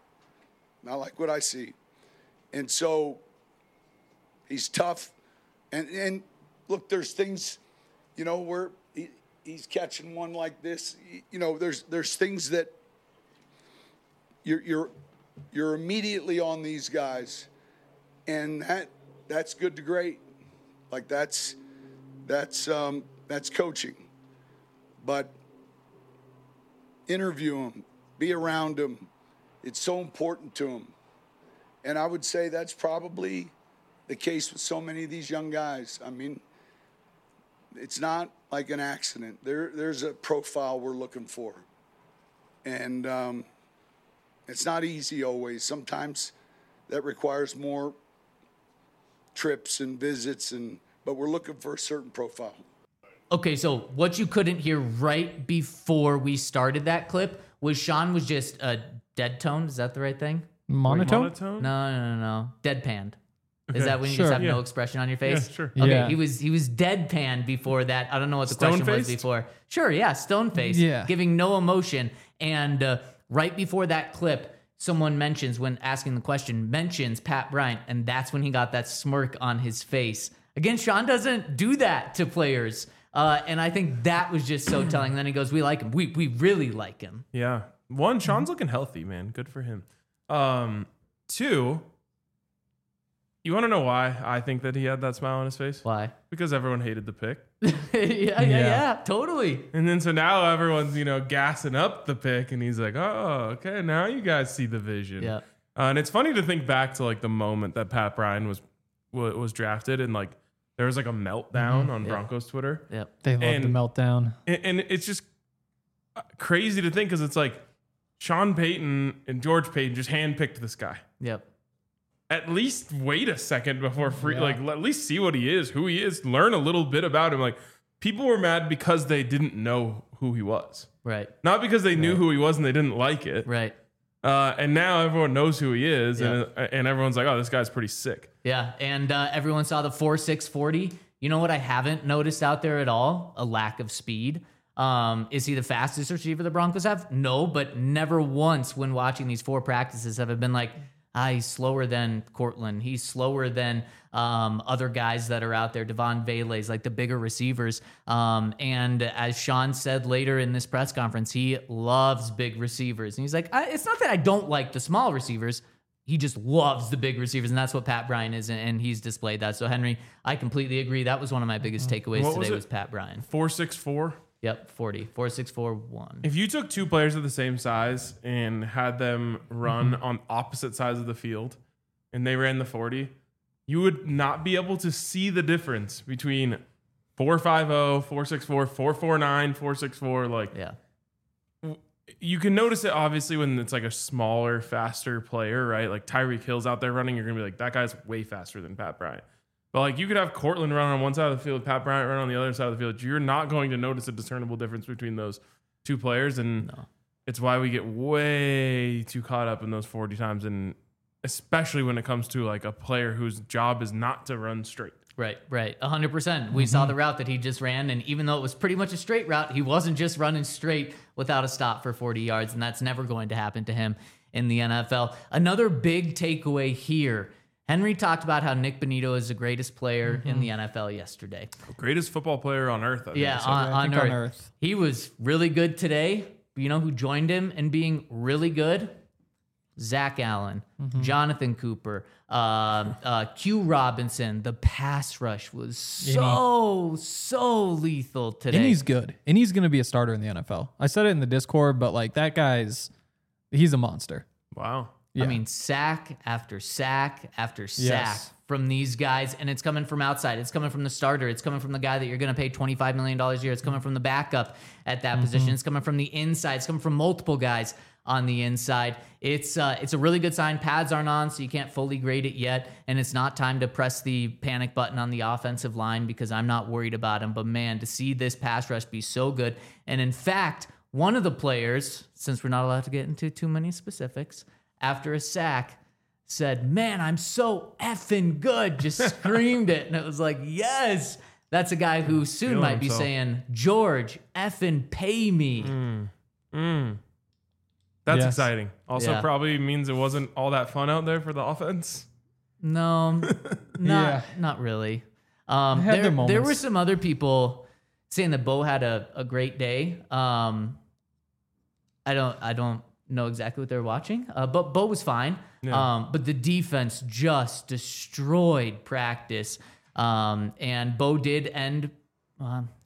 I like what I see. And so he's tough. And, and look, there's things, you know, where he, he's catching one like this. You know, there's there's things that you're you're you're immediately on these guys, and that that's good to great. Like that's that's um, that's coaching. but interview him, be around him. It's so important to him. And I would say that's probably the case with so many of these young guys. I mean, it's not like an accident. There, there's a profile we're looking for. And um, it's not easy always. Sometimes that requires more trips and visits, and but we're looking for a certain profile. Okay, so what you couldn't hear right before we started that clip was Sean was just a uh, dead tone. Is that the right thing? Monotone? Monotone? No, no, no, no. Deadpanned. Is Okay. that when you Sure. just have Yeah. no expression on your face? Yeah, sure. Okay, Yeah. he was he was deadpan before that. I don't know what the question was Stone-faced? before. Sure, yeah, stone face, Yeah. giving no emotion. And uh, right before that clip, someone mentions when asking the question mentions Pat Bryant, and that's when he got that smirk on his face. Again, Sean doesn't do that to players, uh, and I think that was just so telling. Then he goes, "We like him. We we really like him." Yeah. One, Sean's looking healthy, man. Good for him. Um, two, you want to know why I think that he had that smile on his face? Why? Because everyone hated the pick. yeah, yeah, yeah, yeah, totally. And then so now everyone's, you know, gassing up the pick, and he's like, oh, okay, now you guys see the vision. Yeah. Uh, and it's funny to think back to like the moment that Pat Bryant was wa- was drafted, and like there was like a meltdown on Yeah. Broncos Twitter. Yep. They love And- the meltdown. And, and it's just crazy to think because it's like Sean Payton and George Payton just handpicked this guy. Yep. At least wait a second before free, Yeah. like at least see what he is, who he is, learn a little bit about him. Like people were mad because they didn't know who he was, Right. not because they knew who he was and they didn't like it. Right. Uh, and now everyone knows who he is, Yeah. and and everyone's like, oh, this guy's pretty sick. Yeah, and uh, everyone saw the four six forty. You know what I haven't noticed out there at all? A lack of speed. Um, is he the fastest receiver the Broncos have? No, but never once when watching these four practices have I been like, ah, he's slower than Cortland. He's slower than um, other guys that are out there, Devon Vele's, like the bigger receivers. Um, and as Sean said later in this press conference, he loves big receivers. And he's like, I, it's not that I don't like the small receivers. He just loves the big receivers, and that's what Pat Bryant is, and- and he's displayed that. So, Henry, I completely agree. That was one of my biggest takeaways What was today it? was Pat Bryant. Four six four. Yep, forty. four six four one. If you took two players of the same size and had them run on opposite sides of the field, and they ran the forty, you would not be able to see the difference between four five zero, four six four, four four nine, four six four. Like, Yeah. you can notice it obviously when it's like a smaller, faster player, right? Like Tyreek Hill's out there running, you're gonna be like, that guy's way faster than Pat Bryant. But like you could have Cortland run on one side of the field, Pat Bryant run on the other side of the field. You're not going to notice a discernible difference between those two players, and No. it's why we get way too caught up in those forty times, and especially when it comes to like a player whose job is not to run straight. Right, right. one hundred percent. We saw the route that he just ran, and even though it was pretty much a straight route, he wasn't just running straight without a stop for forty yards, and that's never going to happen to him in the N F L. Another big takeaway here. Henry talked about how Nick Bonito is the greatest player in the N F L yesterday. Greatest football player on earth. I think Yeah, I said. on, Yeah, I on, think earth. on Earth. He was really good today. You know who joined him in being really good? Zach Allen, Jonathan Cooper, uh, uh, Q Robinson. The pass rush was so, so lethal today. And he's good. And he's going to be a starter in the N F L. I said it in the Discord, but like that guy's, he's a monster. Wow. Yeah. I mean, sack after sack after sack Yes. from these guys, and it's coming from outside. It's coming from the starter. It's coming from the guy that you're going to pay twenty-five million dollars a year. It's coming from the backup at that position. It's coming from the inside. It's coming from multiple guys on the inside. It's uh, it's a really good sign. Pads aren't on, so you can't fully grade it yet, and it's not time to press the panic button on the offensive line because I'm not worried about him. But man, to see this pass rush be so good, and in fact, one of the players, since we're not allowed to get into too many specifics, after a sack, said, "Man, I'm so effing good." Just screamed it. And it was like, yes, that's a guy who soon Feeling might be himself. saying, "George, effing pay me." Mm. That's Yes. exciting. Also, Yeah. probably means it wasn't all that fun out there for the offense. No, not, Yeah. not really. Um, They had there, their there moments. were some other people saying that Bo had a, a great day. Um, I don't, I don't know exactly what they're watching, uh, but Bo was fine. Yeah. Um, but the defense just destroyed practice. Um, and Bo did end, um,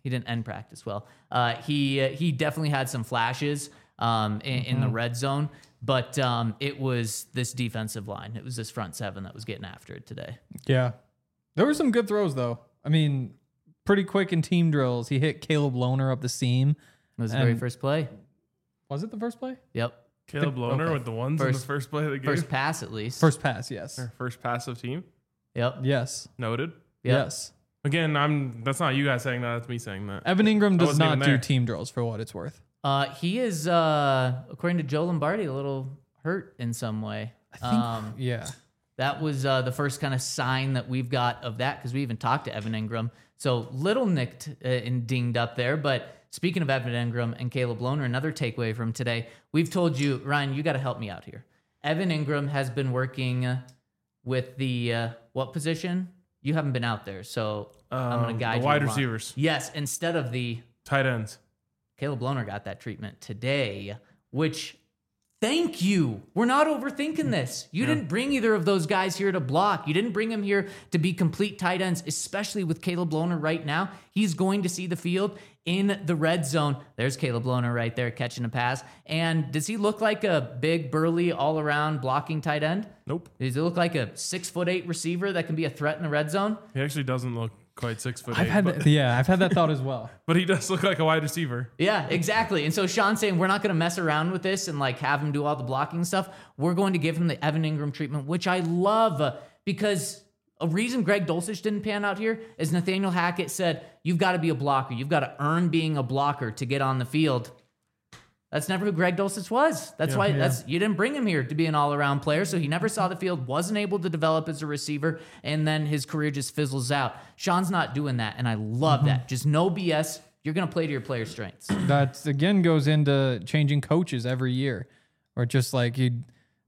he didn't end practice well. Uh, he uh, he definitely had some flashes um, in, in the red zone, but um, it was this defensive line. It was this front seven that was getting after it today. Yeah. There were some good throws, though. I mean, pretty quick in team drills. He hit Caleb Lohner up the seam. It was the very first play. Was it the first play? Yep. Caleb Lohner okay. with the ones First- in the first play of the game. First pass, at least. First pass, yes. Or first passive team. Yep. Yes. Noted. Yep. Yes. Again, I'm. That's not you guys saying that. That's me saying that. Evan Ingram I does wasn't not even do there. team drills for what it's worth. Uh, he is, uh, according to Joe Lombardi, a little hurt in some way. I think, Um, yeah. That was uh, the first kind of sign that we've got of that because we even talked to Evan Ingram. So little nicked uh, and dinged up there. But speaking of Evan Ingram and Caleb Lohner, another takeaway from today, we've told you, Ryan, you got to help me out here. Evan Ingram has been working uh, with the uh, what position? You haven't been out there, so I'm going Um, to guide the you wide along. receivers. Yes, instead of the Tight ends. Caleb Lohner got that treatment today, which thank you. We're not overthinking this. You Yeah. didn't bring either of those guys here to block. You didn't bring them here to be complete tight ends, especially with Caleb Lohner right now. He's going to see the field in the red zone. There's Caleb Lohner right there catching a pass. And does he look like a big, burly, all-around blocking tight end? Nope. Does he look like a six foot eight receiver that can be a threat in the red zone? He actually doesn't look quite six foot I've eight. had but, that, yeah, I've had that thought as well. but he does look like a wide receiver. Yeah, exactly. And so Sean's saying we're not going to mess around with this and like have him do all the blocking stuff. We're going to give him the Evan Ingram treatment, which I love uh, because a reason Greg Dulcich didn't pan out here is Nathaniel Hackett said, you've got to be a blocker. You've got to earn being a blocker to get on the field. That's never who Greg Dulcich was. That's Yeah. why Yeah. that's you didn't bring him here to be an all-around player. So he never saw the field, wasn't able to develop as a receiver, and then his career just fizzles out. Sean's not doing that, and I love that. Just no B S. You're going to play to your player strengths. That again goes into changing coaches every year, or just like you,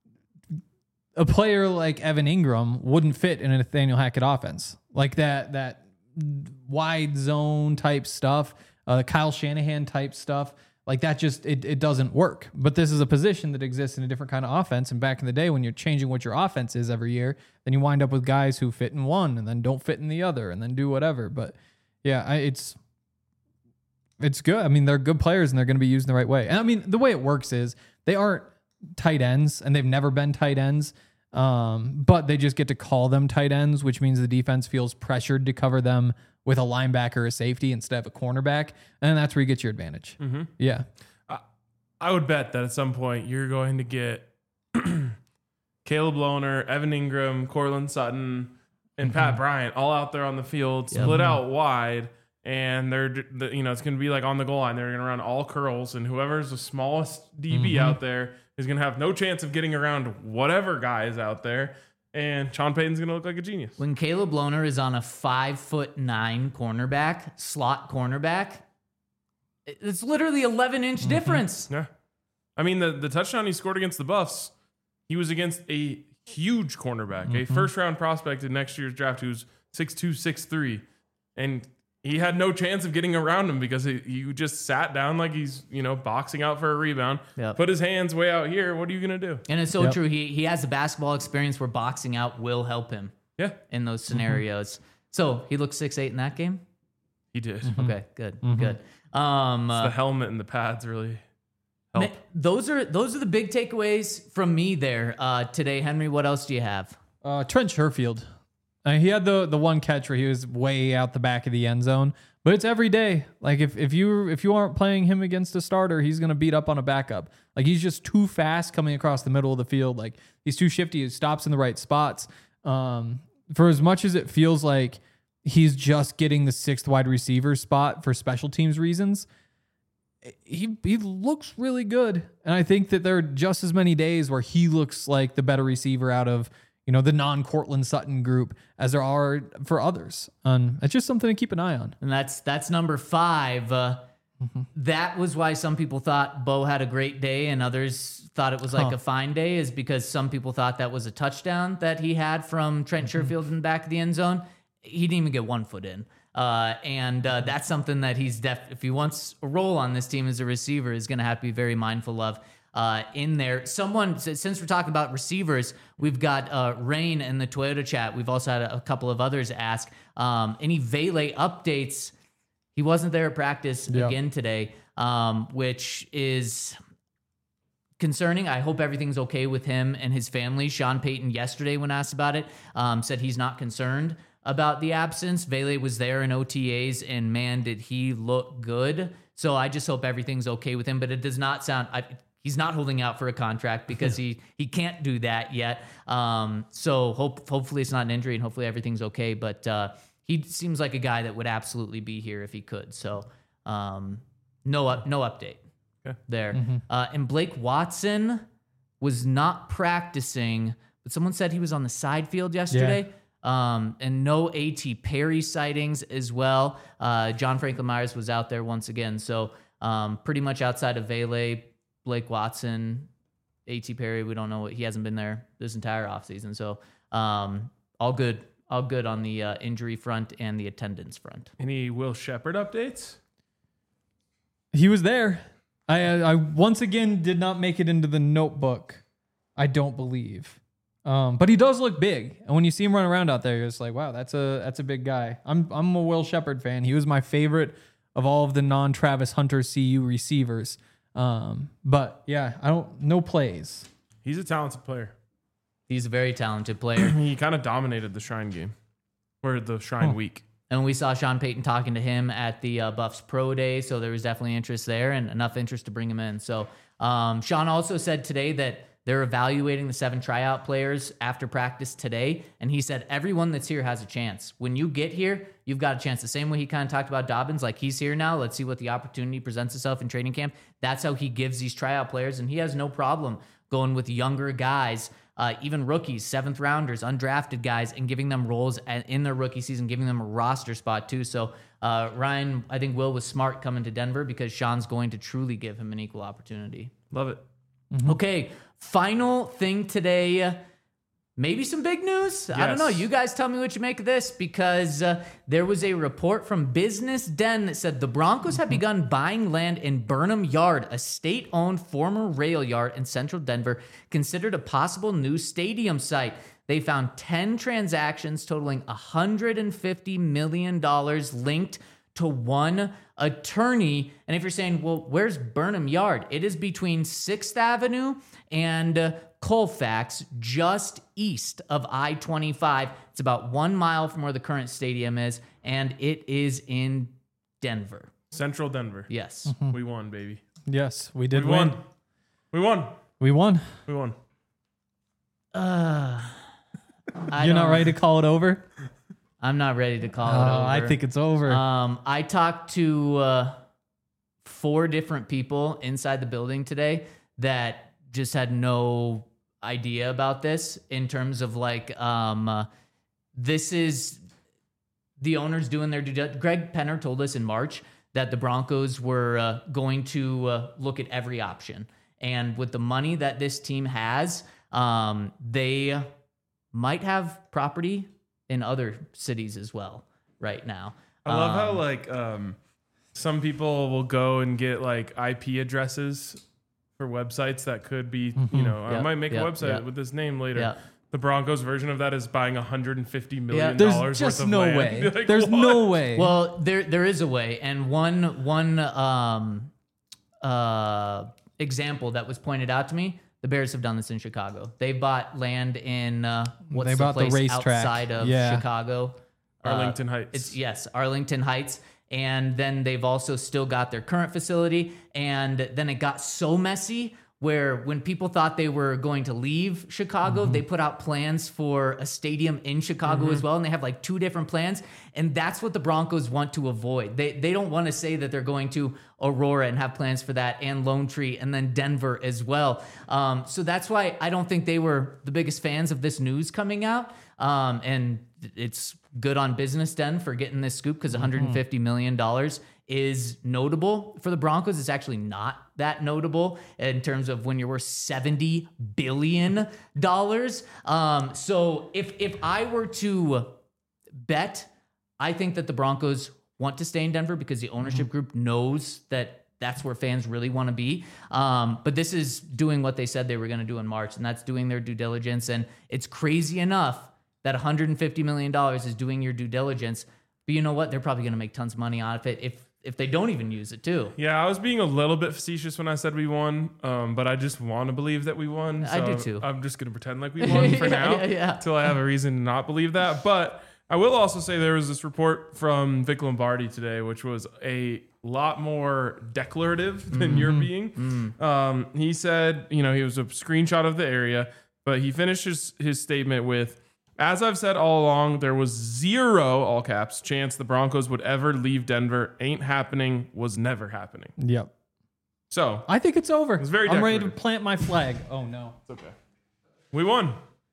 a player like Evan Ingram wouldn't fit in a Nathaniel Hackett offense, like that that wide zone type stuff, uh, Kyle Shanahan type stuff. Like that just, it, it doesn't work. But this is a position that exists in a different kind of offense. And back in the day when you're changing what your offense is every year, then you wind up with guys who fit in one and then don't fit in the other and then do whatever. But yeah, I, it's it's good. I mean, they're good players and they're going to be used in the right way. And I mean, the way it works is they aren't tight ends and they've never been tight ends. Um, but they just get to call them tight ends, which means the defense feels pressured to cover them with a linebacker or a safety instead of a cornerback. And that's where you get your advantage. Mm-hmm. Yeah. I, I would bet that at some point you're going to get Caleb Lohner, Evan Ingram, Cortland Sutton, and Pat Bryant all out there on the field, Yep. split out wide. And they're, you know, it's going to be like on the goal line. They're going to run all curls, and whoever's the smallest D B Mhm. out there is going to have no chance of getting around whatever guy is out there. And Sean Payton's going to look like a genius. When Caleb Lohner is on a five foot nine cornerback, slot cornerback, it's literally eleven inch difference. Yeah. I mean, the, the touchdown he scored against the Buffs, he was against a huge cornerback, a Mhm. first round prospect in next year's draft who's six two, six three. And he had no chance of getting around him because he, he just sat down like he's, you know, boxing out for a rebound, Yep. put his hands way out here. What are you going to do? And it's so Yep. true. He he has the basketball experience where boxing out will help him Yeah, in those scenarios. So he looked six eight in that game. he did. Okay, good, Mhm. good. Um, It's uh, the helmet and the pads really help. ma- those are those are the big takeaways from me there uh, today, Henry. What else do you have? Uh, Trent Sherfield. Uh, he had the the one catch where he was way out the back of the end zone, but it's every day. Like if if you if you aren't playing him against a starter, he's gonna beat up on a backup. Like he's just too fast coming across the middle of the field. Like he's too shifty. He stops in the right spots. Um, for as much as it feels like he's just getting the sixth wide receiver spot for special teams reasons, he he looks really good. And I think that there are just as many days where he looks like the better receiver out of, you know, the non-Cortland Sutton group as there are for others. Um, it's just something to keep an eye on. And that's that's number five. Uh, That was why some people thought Bo had a great day and others thought it was like Huh. a fine day, is because some people thought that was a touchdown that he had from Trent Sherfield in the back of the end zone. He didn't even get one foot in. Uh, and uh, that's something that he's def if he wants a role on this team as a receiver, is going to have to be very mindful of uh, in there. Someone, since we're talking about receivers, we've got uh, Rain in the Toyota chat. We've also had a, a couple of others ask um, any Vele updates. He wasn't there at practice Yeah. again today, um, which is concerning. I hope everything's okay with him and his family. Sean Payton yesterday, when asked about it, um, said he's not concerned about the absence. Vele was there in O T As, and man, did he look good. So I just hope everything's okay with him. But it does not sound... I, he's not holding out for a contract because he he can't do that yet. Um, so hope hopefully it's not an injury, and hopefully everything's okay. But uh, he seems like a guy that would absolutely be here if he could. So um, no up, no update Okay. there. Mm-hmm. Uh, and Blake Watson was not practicing, but someone said he was on the side field yesterday. Um, and no A T Perry sightings as well. Uh, John Franklin Myers was out there once again. So um, pretty much outside of Vele, Blake Watson, A T Perry, we don't know what he hasn't been there this entire offseason. So um, all good, all good on the uh, injury front and the attendance front. Any Will Shepherd updates? He was there. I I once again did not make it into the notebook. I don't believe. Um, but he does look big, and when you see him run around out there, you're just like, wow, that's a that's a big guy. I'm I'm a Will Shepherd fan. He was my favorite of all of the non-Travis Hunter C U receivers. Um, but yeah, I don't no plays. He's a talented player. He's a very talented player. He kind of dominated the Shrine game or the Shrine Huh. week. And we saw Sean Payton talking to him at the uh, Buffs Pro Day, so there was definitely interest there and enough interest to bring him in. So um, Sean also said today that they're evaluating the seven tryout players after practice today, and he said everyone that's here has a chance. When you get here, you've got a chance. The same way he kind of talked about Dobbins, like he's here now. Let's see what the opportunity presents itself in training camp. That's how he gives these tryout players, and he has no problem going with younger guys, uh, even rookies, seventh rounders, undrafted guys, and giving them roles at, in their rookie season, giving them a roster spot too. So uh, Ryan, I think Will was smart coming to Denver because Sean's going to truly give him an equal opportunity. Love it. Okay, final thing today. Maybe some big news. I don't know. Yes. You guys tell me what you make of this, because uh, there was a report from Business Den that said the Broncos have begun buying land in Burnham Yard, a state-owned former rail yard in central Denver, considered a possible new stadium site. They found ten transactions totaling one hundred fifty million dollars linked to one attorney. And if you're saying, well, where's Burnham Yard? It is between sixth Avenue and uh, Colfax, just east of I twenty-five. It's about one mile from where the current stadium is, and it is in Denver. Central Denver. Yes. We won, baby. Yes, we did we win. won. We won. We won. We won. Uh, I You're not don't- ready to call it over? I'm not ready to call Oh, it over. I think it's over. Um, I talked to uh, four different people inside the building today that just had no idea about this in terms of like, um, uh, this is the owners doing their due diligence. Greg Penner told us in March that the Broncos were uh, going to uh, look at every option. And with the money that this team has, um, they might have property in other cities as well right now. I love how Um, like um, some people will go and get like I P addresses for websites that could be, you know, I Yep, might make yep, a website yep. with this name later. Yep. The Broncos version of that is buying one hundred fifty million There's dollars just worth of no land. way. Like, There's what? no way. Well, there there is a way, and one one um uh example that was pointed out to me. The Bears have done this in Chicago. They bought land in uh, what's They the bought the place racetrack. outside of Yeah. Chicago? Uh, Arlington Heights. It's yes, Arlington Heights. And then they've also still got their current facility. And then it got so messy where when people thought they were going to leave Chicago, Mm-hmm. they put out plans for a stadium in Chicago Mm-hmm. as well. And they have like two different plans. And that's what the Broncos want to avoid. They they don't want to say that they're going to Aurora and have plans for that, and Lone Tree, and then Denver as well. Um, so that's why I don't think they were the biggest fans of this news coming out. Um, and it's good on Business Den for getting this scoop, because one hundred fifty million dollars is notable for the Broncos. It's actually not that notable in terms of when you're worth seventy billion dollars. Um, so if if I were to bet, I think that the Broncos want to stay in Denver because the ownership group knows that that's where fans really want to be. Um, but this is doing what they said they were going to do in March, and that's doing their due diligence. And it's crazy enough that one hundred fifty million dollars is doing your due diligence. But you know what? They're probably going to make tons of money out of it. If if they don't even use it too. Yeah, I was being a little bit facetious when I said we won, um, but I just want to believe that we won. I so do too. I'm just going to pretend like we won for Yeah, now yeah, yeah. until I have a reason to not believe that. But I will also say there was this report from Vic Lombardi today, which was a lot more declarative than Mm-hmm. you're being. Mm. Um, he said, you know, he was a screenshot of the area, but he finished his, his statement with, as I've said all along, there was zero, all caps, chance the Broncos would ever leave Denver. Ain't happening, was never happening. Yep. So I think it's over. It's very I'm ready to declarative. plant my flag. Oh no. It's okay. We won.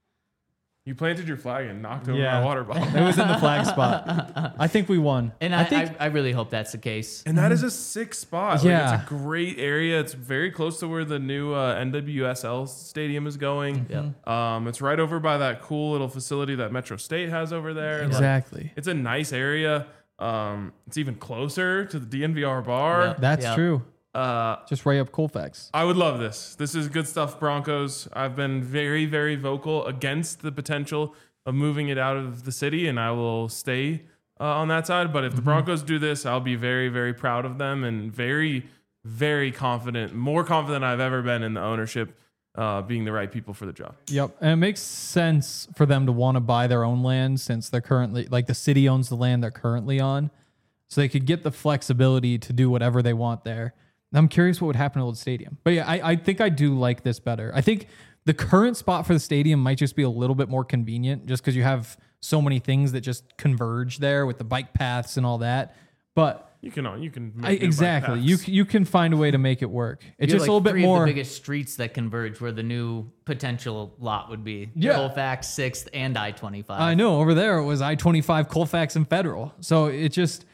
You planted your flag and knocked over Yeah. my water bottle. It was in the flag spot. I think we won. And I, I, think I, really hope that's the case. And that is a sick spot. Yeah. Like, it's a great area. It's very close to where the new uh, N W S L stadium is going. Yep. Um, it's right over by that cool little facility that Metro State has over there. Like, Exactly. it's a nice area. Um, it's even closer to the D N V R bar. Yep. That's Yep. true. Uh, Just Ray up Colfax. I would love this. This is good stuff, Broncos. I've been very, very vocal against the potential of moving it out of the city, and I will stay uh, on that side. But if the Broncos do this, I'll be very, very proud of them and very, very confident, more confident than I've ever been in the ownership uh, being the right people for the job. Yep. And it makes sense for them to want to buy their own land since they're currently, like the city owns the land they're currently on. So they could get the flexibility to do whatever they want there. And I'm curious what would happen to Old Stadium. But yeah, I, I think I do like this better. I think the current spot for the stadium might just be a little bit more convenient just because you have so many things that just converge there with the bike paths and all that. But You can, you can make I, new bike exactly, you paths. you can find a way to make it work. It's You have, just like, a little bit three more. of the biggest streets that converge where the new potential lot would be. Yeah. Colfax, sixth, and I twenty-five. I know over there it was I twenty-five, Colfax, and Federal. So it just,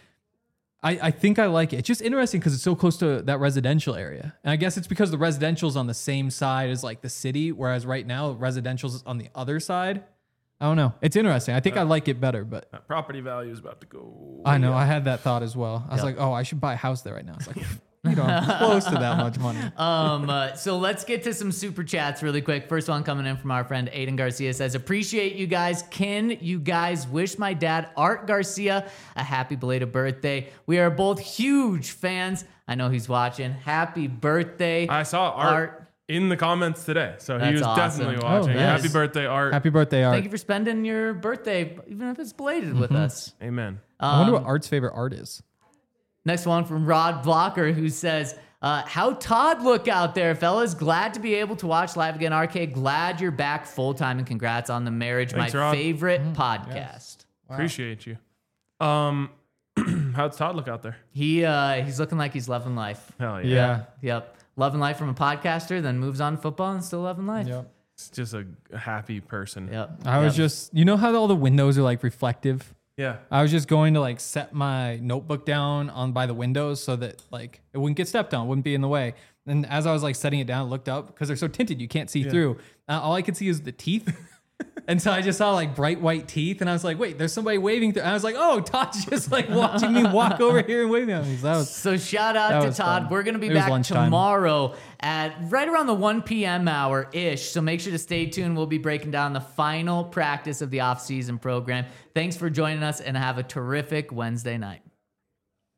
I, I think I like it. It's just interesting because it's so close to that residential area. And I guess it's because the residential's on the same side as like the city, whereas right now residential's on the other side. I don't know. It's interesting. I think I like it better, but That property value is about to go. I know I had that thought as well. I was Yep. like, oh, I should buy a house there right now. It's like, you don't have close to that much money. Um, uh, so let's get to some super chats really quick. First one coming in from our friend Aiden Garcia says, appreciate you guys. Can you guys wish my dad, Art Garcia, a happy belated birthday? We are both huge fans. I know he's watching. Happy birthday. I saw Art, Art. in the comments today, so he That's was awesome. definitely Oh, watching. nice. Happy birthday, Art. Happy birthday, Art. Thank you for spending your birthday, even if it's belated with us. Amen. I wonder Um, what Art's favorite art is. Next one from Rod Blocker, who says, uh, how Todd look out there, fellas. Glad to be able to watch live again. R K, glad you're back full time, and congrats on the marriage. Thanks, my Rod. favorite podcast. Appreciate you. Um, how's Todd look out there? He uh, he's looking like he's loving life. Hell yeah. Yeah. Yep. Loving life from a podcaster, then moves on to football and still loving life. Yep. It's just a, a happy person. Yep. I was Yep. just, you know how all the windows are like reflective? Yeah. I was just going to like set my notebook down on by the windows so that like it wouldn't get stepped on, wouldn't be in the way. And as I was like setting it down, I looked up because they're so tinted, you can't see through. Uh, all I could see is the teeth. And so I just saw like bright white teeth, and I was like, wait, there's somebody waving through. And I was like, oh, Todd's just like watching me walk over here and waving at me. So that was So shout That out to was Todd. fun. We're gonna be It was back lunchtime. tomorrow at right around the one p.m. hour ish. So make sure to stay tuned. We'll be breaking down the final practice of the off-season program. Thanks for joining us, and have a terrific Wednesday night.